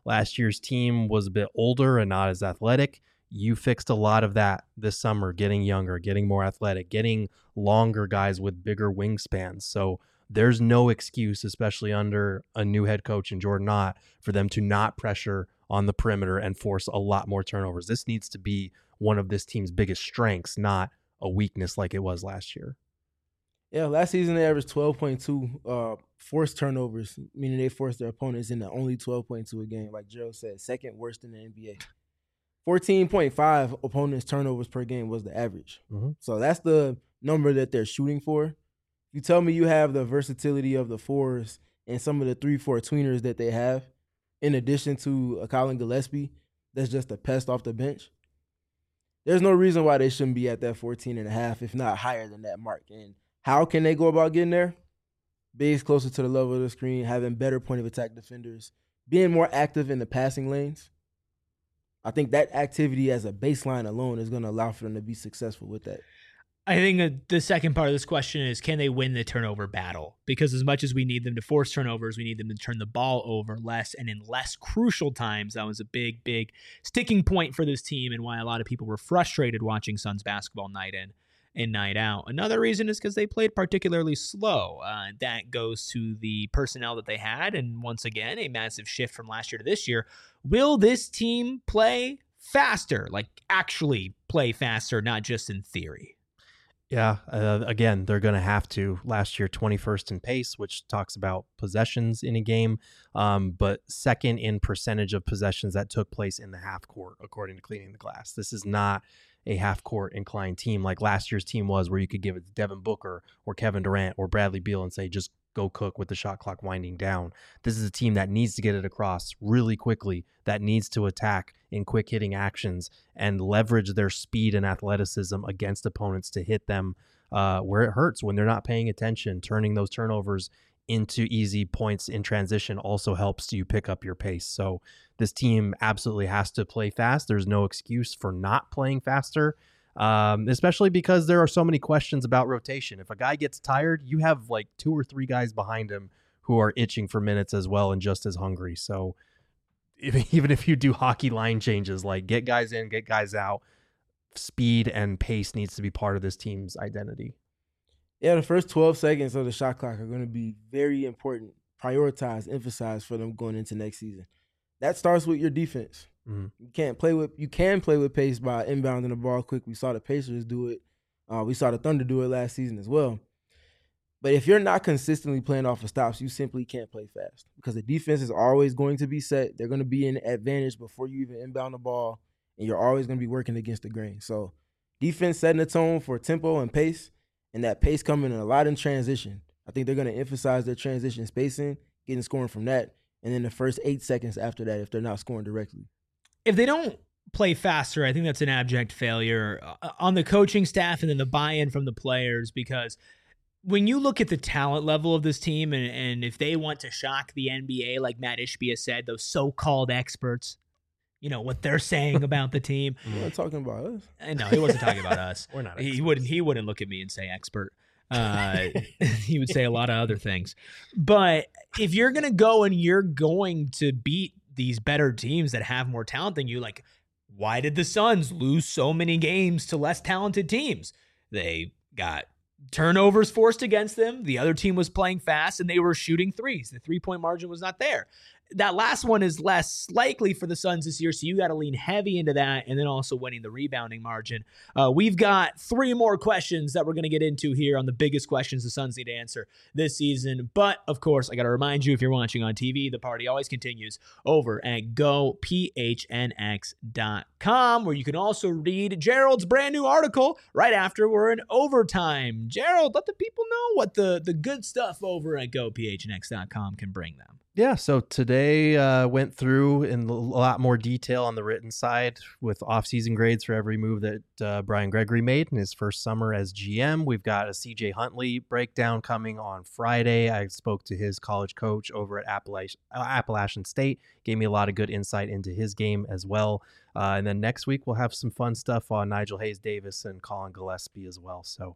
last year's team was a bit older and not as athletic. You fixed a lot of that this summer, getting younger, getting more athletic, getting longer guys with bigger wingspans. So there's no excuse, especially under a new head coach in Jordan Ott, for them to not pressure on the perimeter and force a lot more turnovers. This needs to be one of this team's biggest strengths, not a weakness like it was last year. Yeah, last season they averaged twelve point two uh, forced turnovers, meaning they forced their opponents into only twelve point two a game, like Gerald said, second worst in the N B A. fourteen point five opponents' turnovers per game was the average. Mm-hmm. So that's the number that they're shooting for. If you tell me you have the versatility of the fours and some of the three four tweeners that they have, in addition to a Colin Gillespie that's just a pest off the bench, there's no reason why they shouldn't be at that fourteen and a half, if not higher than that mark. And how can they go about getting there? Bigs closer to the level of the screen, having better point of attack defenders, being more active in the passing lanes. I think that activity as a baseline alone is going to allow for them to be successful with that. I think the second part of this question is, can they win the turnover battle? Because as much as we need them to force turnovers, we need them to turn the ball over less and in less crucial times. That was a big, big sticking point for this team and why a lot of people were frustrated watching Suns basketball night in and night out. Another reason is because they played particularly slow. Uh, that goes to the personnel that they had. And once again, a massive shift from last year to this year. Will this team play faster? Like actually play faster, not just in theory? Yeah, uh, again, they're going to have to. Last year, twenty-first in pace, which talks about possessions in a game, um, but second in percentage of possessions that took place in the half court, according to Cleaning the Glass. This is not a half court inclined team like last year's team was, where you could give it to Devin Booker or Kevin Durant or Bradley Beal and say, just go cook with the shot clock winding down. This is a team that needs to get it across really quickly, that needs to attack in quick hitting actions and leverage their speed and athleticism against opponents to hit them uh, where it hurts when they're not paying attention. Turning those turnovers into easy points in transition also helps you pick up your pace. So this team absolutely has to play fast. There's no excuse for not playing faster. Um, especially because there are so many questions about rotation. If a guy gets tired, you have like two or three guys behind him who are itching for minutes as well and just as hungry. So if, even if you do hockey line changes, like get guys in, get guys out, speed and pace needs to be part of this team's identity. Yeah, the first twelve seconds of the shot clock are going to be very important, prioritized, emphasized for them going into next season. That starts with your defense. Mm-hmm. You can't play with you can play with pace by inbounding the ball quick. We saw the Pacers do it. Uh, we saw the Thunder do it last season as well. But if you're not consistently playing off of stops, you simply can't play fast because the defense is always going to be set. They're going to be in advantage before you even inbound the ball, and you're always going to be working against the grain. So defense setting the tone for tempo and pace, and that pace coming in a lot in transition. I think they're going to emphasize their transition spacing, getting scoring from that, and then the first eight seconds after that if they're not scoring directly. If they don't play faster, I think that's an abject failure on the coaching staff and then the buy-in from the players, because when you look at the talent level of this team and, and if they want to shock the N B A, like Matt Ishbia said, those so-called experts, you know, what they're saying about the team. You're not talking about us. No, he wasn't talking about us. We're not He experts. wouldn't, he wouldn't look at me and say expert. Uh, he would say a lot of other things. But if you're going to go and you're going to beat these better teams that have more talent than you, like, why did the Suns lose so many games to less talented teams? They got turnovers forced against them. The other team was playing fast and they were shooting threes. The three-point margin was not there. That last one is less likely for the Suns this year, so you got to lean heavy into that and then also winning the rebounding margin. Uh, we've got three more questions that we're going to get into here on the biggest questions the Suns need to answer this season. But, of course, I got to remind you, if you're watching on T V, the party always continues over at go p h n x dot com, where you can also read Gerald's brand new article right after we're in overtime. Gerald, let the people know what the, the good stuff over at go p h n x dot com can bring them. Yeah, so today uh, went through in a lot more detail on the written side with off-season grades for every move that uh, Brian Gregory made in his first summer as G M. We've got a C J Huntley breakdown coming on Friday. I spoke to his college coach over at Appalachian, Appalachian State. Gave me a lot of good insight into his game as well. Uh, and then next week we'll have some fun stuff on Nigel Hayes-Davis and Colin Gillespie as well. So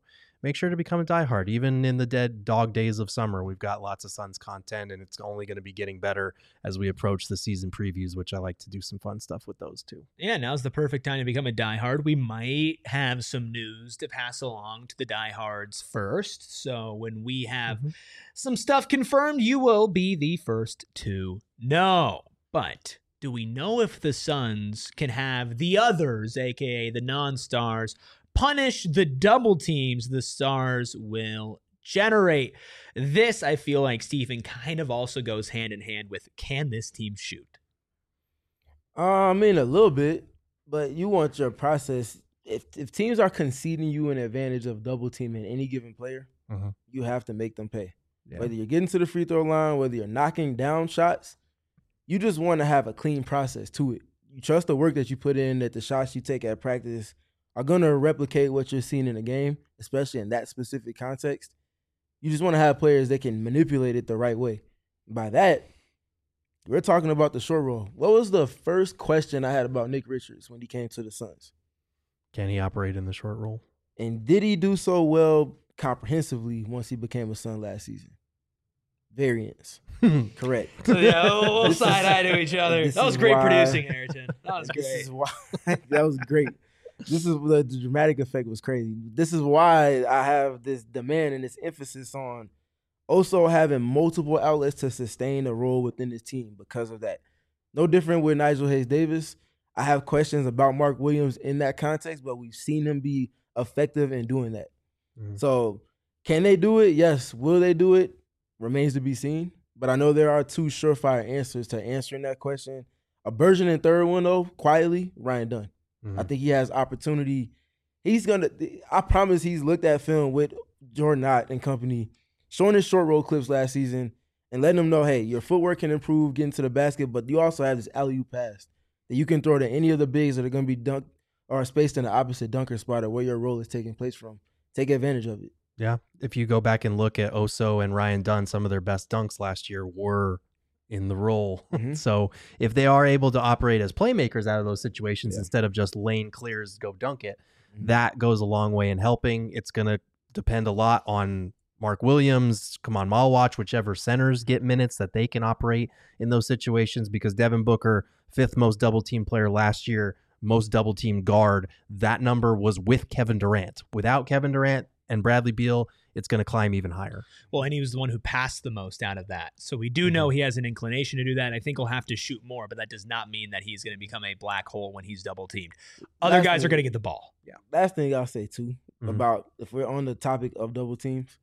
make sure to become a diehard. Even in the dead dog days of summer, we've got lots of Suns content, and it's only going to be getting better as we approach the season previews, which I like to do some fun stuff with those too. Yeah, now's the perfect time to become a diehard. We might have some news to pass along to the diehards first. So when we have mm-hmm. some stuff confirmed, you will be the first to know. But do we know if the Suns can have the others, aka the non-stars, punish the double teams the stars will generate? This, I feel like, Stephen, kind of also goes hand in hand with, can this team shoot? Uh, I mean, a little bit, but you want your process. If if teams are conceding you an advantage of double teaming any given player, uh-huh. you have to make them pay. Yeah. Whether you're getting to the free throw line, whether you're knocking down shots, you just want to have a clean process to it. You trust the work that you put in, that the shots you take at practice are going to replicate what you're seeing in the game, especially in that specific context. You just want to have players that can manipulate it the right way. By that, we're talking about the short roll. What was the first question I had about Nick Richards when he came to the Suns? Can he operate in the short roll? And did he do so well comprehensively once he became a Sun last season? Variance. Correct. So, yeah, we'll, we'll side eye to each other. That was great why, producing, Ayrton. That was great. This is why, that was great. This is the, the dramatic effect was crazy. This is why I have this demand and this emphasis on also having multiple outlets to sustain a role within this team because of that. No different with Nigel Hayes-Davis. I have questions about Mark Williams in that context, but we've seen him be effective in doing that. Mm-hmm. So can they do it? Yes. Will they do it? Remains to be seen. But I know there are two surefire answers to answering that question. A burgeoning third one, though, quietly, Ryan Dunn. Mm-hmm. I think he has opportunity. He's going to – I promise he's looked at film with Jordan Ott and company, showing his short roll clips last season and letting them know, hey, your footwork can improve getting to the basket, but you also have this alley-oop pass that you can throw to any of the bigs that are going to be dunked or spaced in the opposite dunker spot or where your role is taking place from. Take advantage of it. Yeah. If you go back and look at Oso and Ryan Dunn, some of their best dunks last year were in the role. Mm-hmm. So if they are able to operate as playmakers out of those situations yeah. instead of just lane clears, go dunk it, mm-hmm. that goes a long way in helping. It's going to depend a lot on Mark Williams, Kaman Malwatch, whichever centers get minutes that they can operate in those situations, because Devin Booker, fifth most double team player last year, most double team guard, that number was with Kevin Durant. Without Kevin Durant and Bradley Beal, it's going to climb even higher. Well, and he was the one who passed the most out of that. So we do mm-hmm. know he has an inclination to do that. I think he'll have to shoot more, but that does not mean that he's going to become a black hole when he's double teamed. Other last guys thing, are going to get the ball. Yeah. Last thing I'll say too mm-hmm. about, if we're on the topic of double teams,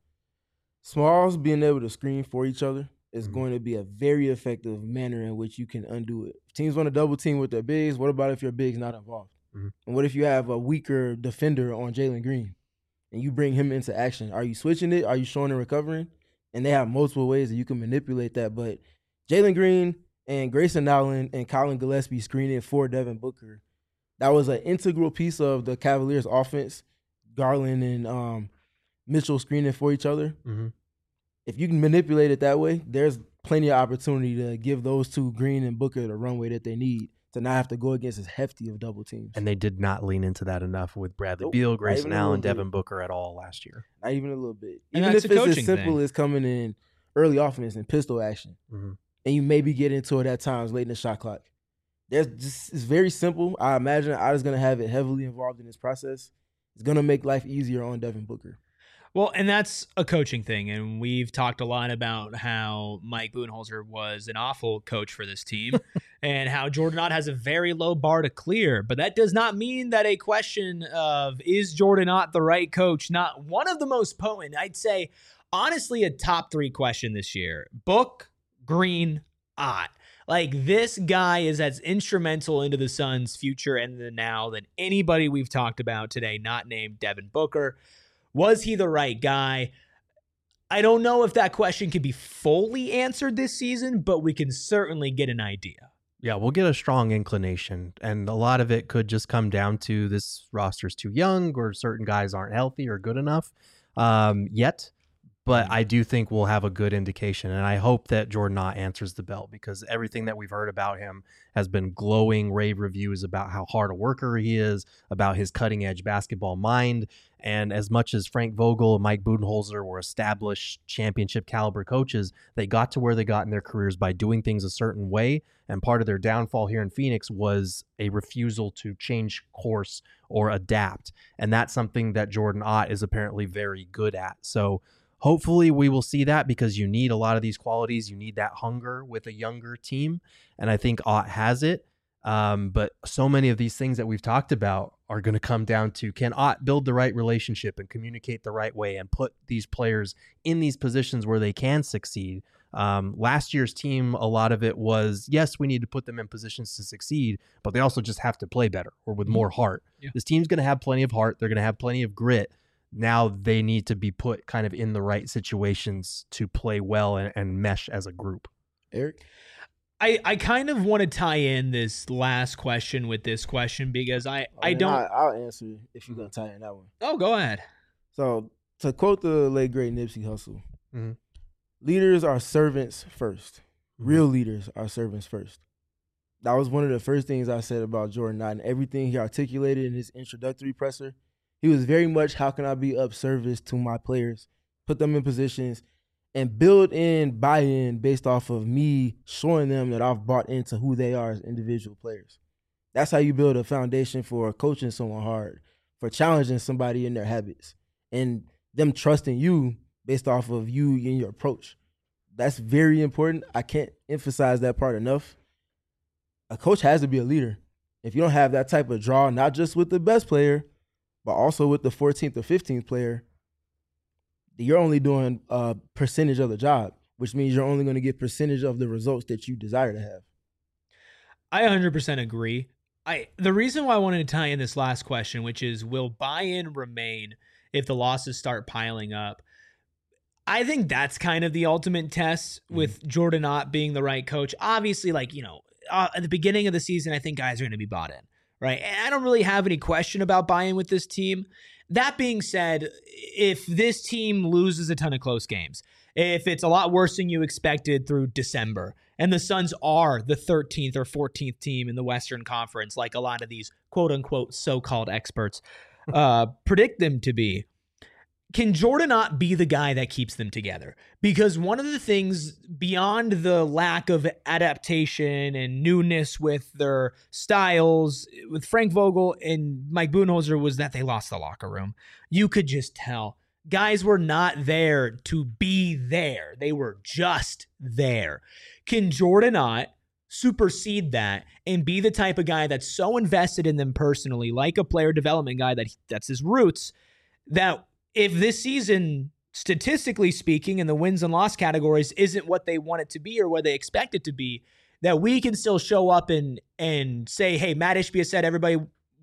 smalls being able to screen for each other is mm-hmm. going to be a very effective manner in which you can undo it. If teams want to double team with their bigs, what about if your big's not involved? Mm-hmm. And what if you have a weaker defender on Jalen Green and you bring him into action? Are you switching it? Are you showing and recovering? And they have multiple ways that you can manipulate that. But Jalen Green and Grayson Allen and Colin Gillespie screening for Devin Booker, that was an integral piece of the Cavaliers' offense. Garland and um, Mitchell screening for each other. Mm-hmm. If you can manipulate it that way, there's plenty of opportunity to give those two, Green and Booker, the runway that they need to not have to go against as hefty of double teams. And they did not lean into that enough with Bradley nope, Beal, Grayson Allen, Devin Booker at all last year. Not even a little bit. And even if it's as simple thing. as coming in early offense and pistol action, mm-hmm. and you maybe get into it at times late in the shot clock. There's just, it's very simple. I imagine I was going to have it heavily involved in this process. It's going to make life easier on Devin Booker. Well, and that's a coaching thing, and we've talked a lot about how Mike Budenholzer was an awful coach for this team and how Jordan Ott has a very low bar to clear, but that does not mean that a question of is Jordan Ott the right coach, not one of the most potent, I'd say, honestly, a top three question this year. Book, Green, Ott. Like, this guy is as instrumental into the Suns' future and the now than anybody we've talked about today, not named Devin Booker. Was he the right guy? I don't know if that question can be fully answered this season, but we can certainly get an idea. Yeah, we'll get a strong inclination, and a lot of it could just come down to this roster's too young or certain guys aren't healthy or good enough um, yet. But Mm. I do think we'll have a good indication, and I hope that Jordan Ott answers the bell, because everything that we've heard about him has been glowing rave reviews about how hard a worker he is, about his cutting-edge basketball mind. And as much as Frank Vogel and Mike Budenholzer were established championship caliber coaches, they got to where they got in their careers by doing things a certain way. And part of their downfall here in Phoenix was a refusal to change course or adapt. And that's something that Jordan Ott is apparently very good at. So hopefully we will see that, because you need a lot of these qualities. You need that hunger with a younger team. And I think Ott has it. Um, but so many of these things that we've talked about are going to come down to, can Ott build the right relationship and communicate the right way and put these players in these positions where they can succeed? Um, last year's team, a lot of it was, yes, we need to put them in positions to succeed, but they also just have to play better or with more heart. Yeah. This team's going to have plenty of heart. They're going to have plenty of grit. Now they need to be put kind of in the right situations to play well and, and mesh as a group. Eric? I, I kind of want to tie in this last question with this question, because I, Oh, I man, don't. I, I'll answer if you're going to tie in that one. Oh, go ahead. So, to quote the late, great Nipsey Hussle, Mhm. leaders are servants first. Real leaders are servants first. That was one of the first things I said about Jordan Knott, and everything he articulated in his introductory presser. He was very much, how can I be of service to my players, put them in positions, and build in buy-in based off of me showing them that I've bought into who they are as individual players. That's how you build a foundation for coaching someone hard, for challenging somebody in their habits, and them trusting you based off of you and your approach. That's very important. I can't emphasize that part enough. A coach has to be a leader. If you don't have that type of draw, not just with the best player, but also with the fourteenth or fifteenth player, you're only doing a percentage of the job, which means you're only going to get percentage of the results that you desire to have. I one hundred percent agree. I the reason why I wanted to tie in this last question, which is, will buy-in remain if the losses start piling up? I think that's kind of the ultimate test with Jordan Ott being the right coach. Obviously, like, you know, uh, at the beginning of the season, I think guys are going to be bought in, right? And I don't really have any question about buy-in with this team. That being said, if this team loses a ton of close games, if it's a lot worse than you expected through December, and the Suns are the thirteenth or fourteenth team in the Western Conference, like a lot of these quote-unquote so-called experts uh, predict them to be, can Jordan Ott be the guy that keeps them together? Because one of the things beyond the lack of adaptation and newness with their styles with Frank Vogel and Mike Budenholzer was that they lost the locker room. You could just tell. Guys were not there to be there. They were just there. Can Jordan Ott supersede that and be the type of guy that's so invested in them personally, like a player development guy that that's his roots, that if this season, statistically speaking, in the wins and loss categories isn't what they want it to be or what they expect it to be, that we can still show up and and say, hey, Matt Ishbia said everybody,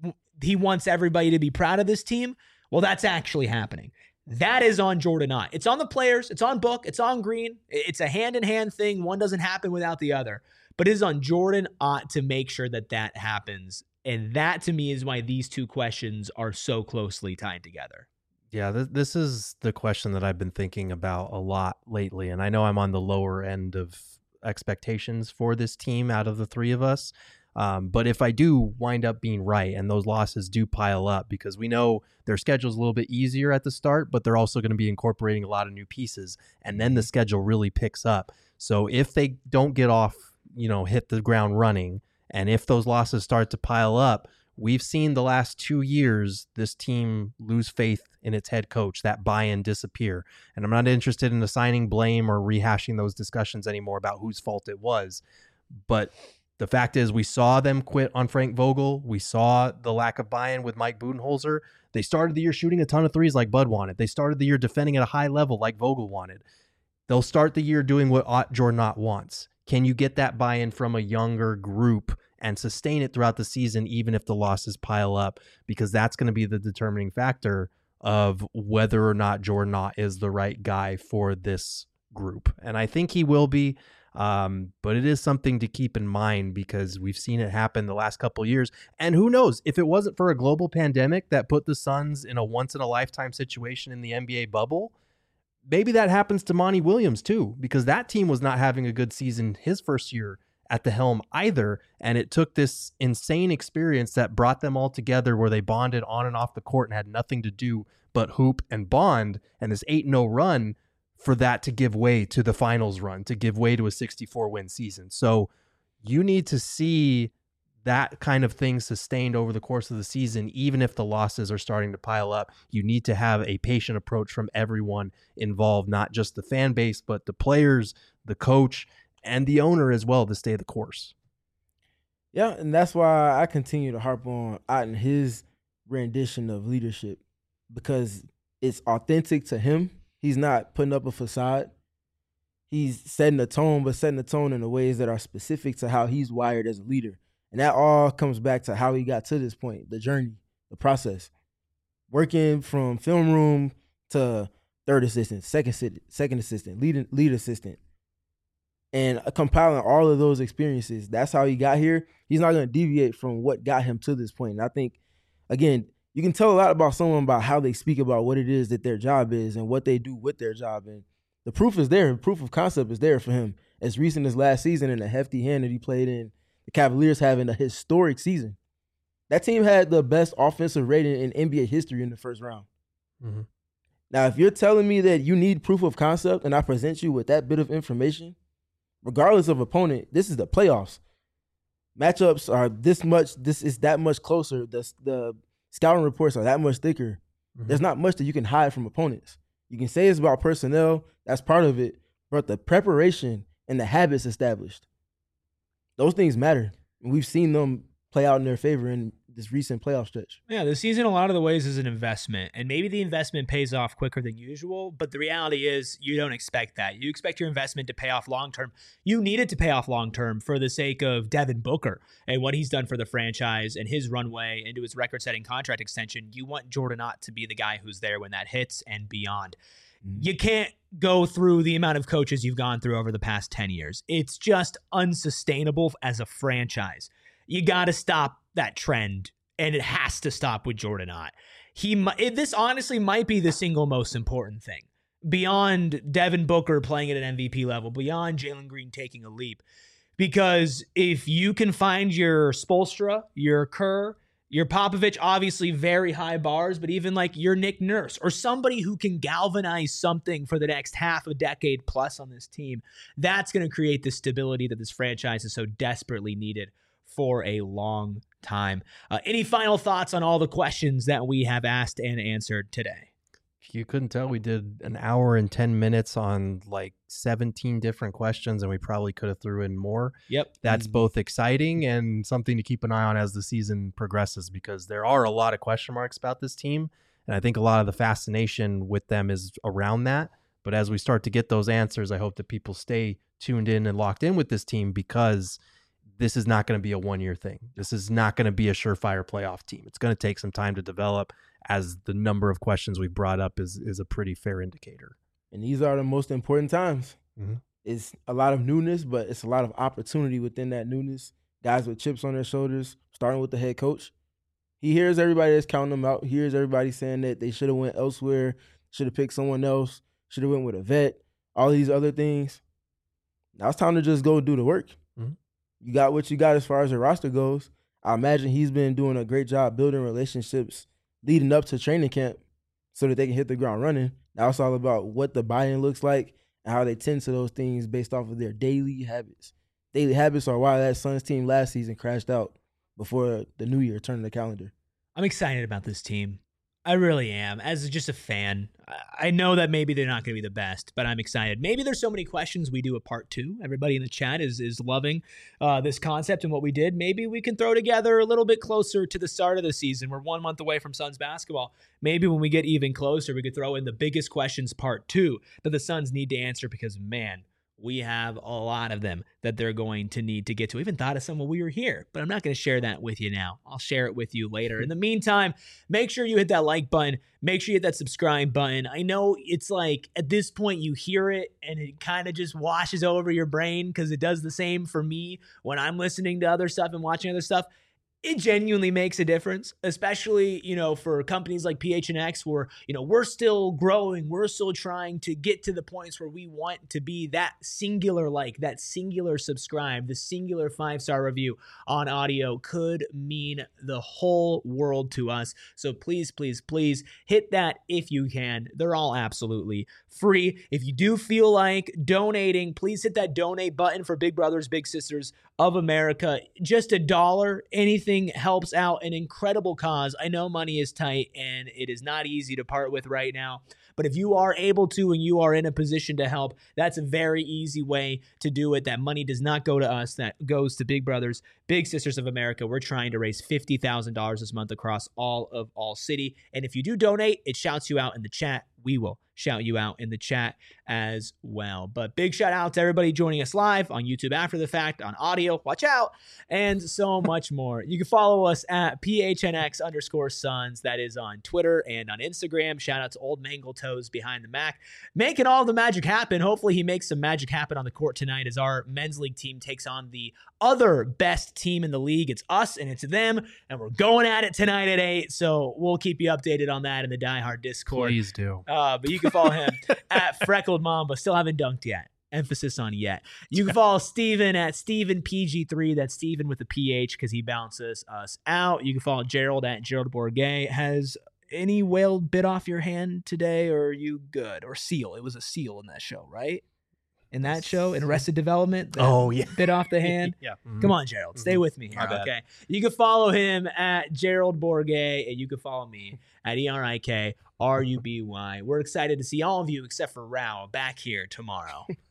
he wants everybody to be proud of this team. Well, that's actually happening. That is on Jordan Ott. It's on the players. It's on Book. It's on Green. It's a hand-in-hand thing. One doesn't happen without the other. But it is on Jordan Ott to make sure that that happens. And that, to me, is why these two questions are so closely tied together. Yeah, th- this is the question that I've been thinking about a lot lately. And I know I'm on the lower end of expectations for this team out of the three of us. Um, but if I do wind up being right and those losses do pile up, because we know their schedule's a little bit easier at the start, but they're also going to be incorporating a lot of new pieces. And then the schedule really picks up. So if they don't get off, you know, hit the ground running, and if those losses start to pile up, we've seen the last two years this team lose faith in its head coach, that buy-in disappear. And I'm not interested in assigning blame or rehashing those discussions anymore about whose fault it was. But the fact is, we saw them quit on Frank Vogel. We saw the lack of buy-in with Mike Budenholzer. They started the year shooting a ton of threes like Bud wanted. They started the year defending at a high level like Vogel wanted. They'll start the year doing what Ott, Jordan Ott wants. Can you get that buy-in from a younger group and sustain it throughout the season, even if the losses pile up? Because that's going to be the determining factor of whether or not Jordan Ott is the right guy for this group. And I think he will be, um, but it is something to keep in mind because we've seen it happen the last couple of years. And who knows, if it wasn't for a global pandemic that put the Suns in a once-in-a-lifetime situation in the N B A bubble, maybe that happens to Monty Williams too, because that team was not having a good season his first year at the helm either. And it took this insane experience that brought them all together where they bonded on and off the court and had nothing to do but hoop and bond, and this eight and oh run for that to give way to the finals run, to give way to a sixty-four win season. So you need to see that kind of thing sustained over the course of the season, even if the losses are starting to pile up. You need to have a patient approach from everyone involved, not just the fan base, but the players, the coach, and the owner as well, to stay the course. Yeah, and that's why I continue to harp on Otten, his rendition of leadership, because it's authentic to him. He's not putting up a facade. He's setting a tone, but setting a tone in the ways that are specific to how he's wired as a leader. And that all comes back to how he got to this point, the journey, the process. Working from film room to third assistant, second assistant, second assistant, lead, lead assistant, and compiling all of those experiences. That's how he got here. He's not going to deviate from what got him to this point. And I think, again, you can tell a lot about someone by how they speak about what it is that their job is and what they do with their job. And the proof is there. The proof of concept is there for him. As recent as last season in a hefty hand that he played in, the Cavaliers having a historic season. That team had the best offensive rating in N B A history in the first round. Mm-hmm. Now, if you're telling me that you need proof of concept and I present you with that bit of information, regardless of opponent, this is the playoffs. Matchups are this much, this is that much closer. The, the scouting reports are that much thicker. Mm-hmm. There's not much that you can hide from opponents. You can say it's about personnel, that's part of it, but the preparation and the habits established, those things matter. And we've seen them play out in their favor in this recent playoff stretch. Yeah, the season, a lot of the ways, is an investment. And maybe the investment pays off quicker than usual, but the reality is you don't expect that. You expect your investment to pay off long-term. You need it to pay off long-term for the sake of Devin Booker and what he's done for the franchise and his runway into his record-setting contract extension. You want Jordan Ott to be the guy who's there when that hits and beyond. Mm-hmm. You can't go through the amount of coaches you've gone through over the past ten years. It's just unsustainable as a franchise. You got to stop that trend, and it has to stop with Jordan Ott. He, this honestly might be the single most important thing, beyond Devin Booker playing at an M V P level, beyond Jalen Green taking a leap. Because if you can find your Spoelstra, your Kerr, your Popovich, obviously very high bars, but even like your Nick Nurse or somebody who can galvanize something for the next half a decade plus on this team, that's going to create the stability that this franchise is so desperately needed for a long time. Uh, any final thoughts on all the questions that we have asked and answered today? You couldn't tell we did an hour and ten minutes on like seventeen different questions, and we probably could have threw in more. Yep. That's both exciting and something to keep an eye on as the season progresses, because there are a lot of question marks about this team. And I think a lot of the fascination with them is around that. But as we start to get those answers, I hope that people stay tuned in and locked in with this team, because this is not going to be a one-year thing. This is not going to be a surefire playoff team. It's going to take some time to develop, as the number of questions we brought up is is a pretty fair indicator. And these are the most important times. Mm-hmm. It's a lot of newness, but it's a lot of opportunity within that newness. Guys with chips on their shoulders, starting with the head coach. He hears everybody that's counting them out. He hears everybody saying that they should have went elsewhere, should have picked someone else, should have went with a vet, all these other things. Now it's time to just go do the work. Mm-hmm. You got what you got as far as the roster goes. I imagine he's been doing a great job building relationships leading up to training camp so that they can hit the ground running. Now it's all about what the buy-in looks like and how they tend to those things based off of their daily habits. Daily habits are why that Suns team last season crashed out before the new year turned the calendar. I'm excited about this team. I really am. As just a fan, I know that maybe they're not going to be the best, but I'm excited. Maybe there's so many questions we do a part two. Everybody in the chat is is loving uh, this concept and what we did. Maybe we can throw together a little bit closer to the start of the season. We're one month away from Suns basketball. Maybe when we get even closer, we could throw in the biggest questions part two that the Suns need to answer, because, man, we have a lot of them that they're going to need to get to. I even thought of some when we were here, but I'm not going to share that with you now. I'll share it with you later. In the meantime, make sure you hit that like button. Make sure you hit that subscribe button. I know it's like at this point you hear it and it kind of just washes over your brain, because it does the same for me when I'm listening to other stuff and watching other stuff. it genuinely makes a difference, especially, you know, for companies like P H N X where, you know, we're still growing. We're still trying to get to the points where we want to be that singular like, that singular subscribe, the singular five-star review on audio could mean the whole world to us. So please, please, please hit that if you can. They're all absolutely free. If you do feel like donating, please hit that donate button for Big Brothers Big Sisters of America. Just a dollar, anything helps out an incredible cause. I know money is tight and it is not easy to part with right now, but if you are able to and you are in a position to help, that's a very easy way to do it. That money does not go to us. That goes to Big Brothers Big Sisters of America. We're trying to raise fifty thousand dollars this month across all of All City. And if you do donate, it shouts you out in the chat. We will shout you out in the chat as well. But big shout out to everybody joining us live on YouTube after the fact, on audio, watch out, and so much more. You can follow us at P H N X underscore Suns. That is on Twitter and on Instagram. Shout out to Old Mangle Toes behind the Mac, making all the magic happen. Hopefully he makes some magic happen on the court tonight as our men's league team takes on the other best team in the league. It's us and it's them, and we're going at it tonight at eight. So we'll keep you updated on that in the Die Hard Discord. Please do. Uh, but you can follow him at Freckled Mamba. Still haven't dunked yet. Emphasis on yet. You can follow Steven at Steven P G three. That's Steven with a P H because he bounces us out. You can follow Gerald at Gerald Bourget. Has any whale bit off your hand today, or are you good? Or seal? It was a seal in that show, right? In that show, in Arrested Development. Oh, yeah. Bit off the hand. Yeah. Mm-hmm. Come on, Gerald. Mm-hmm. Stay with me here, okay? You can follow him at Gerald Bourget, and you can follow me at E R I K R U B Y. We're excited to see all of you, except for Rao, back here tomorrow.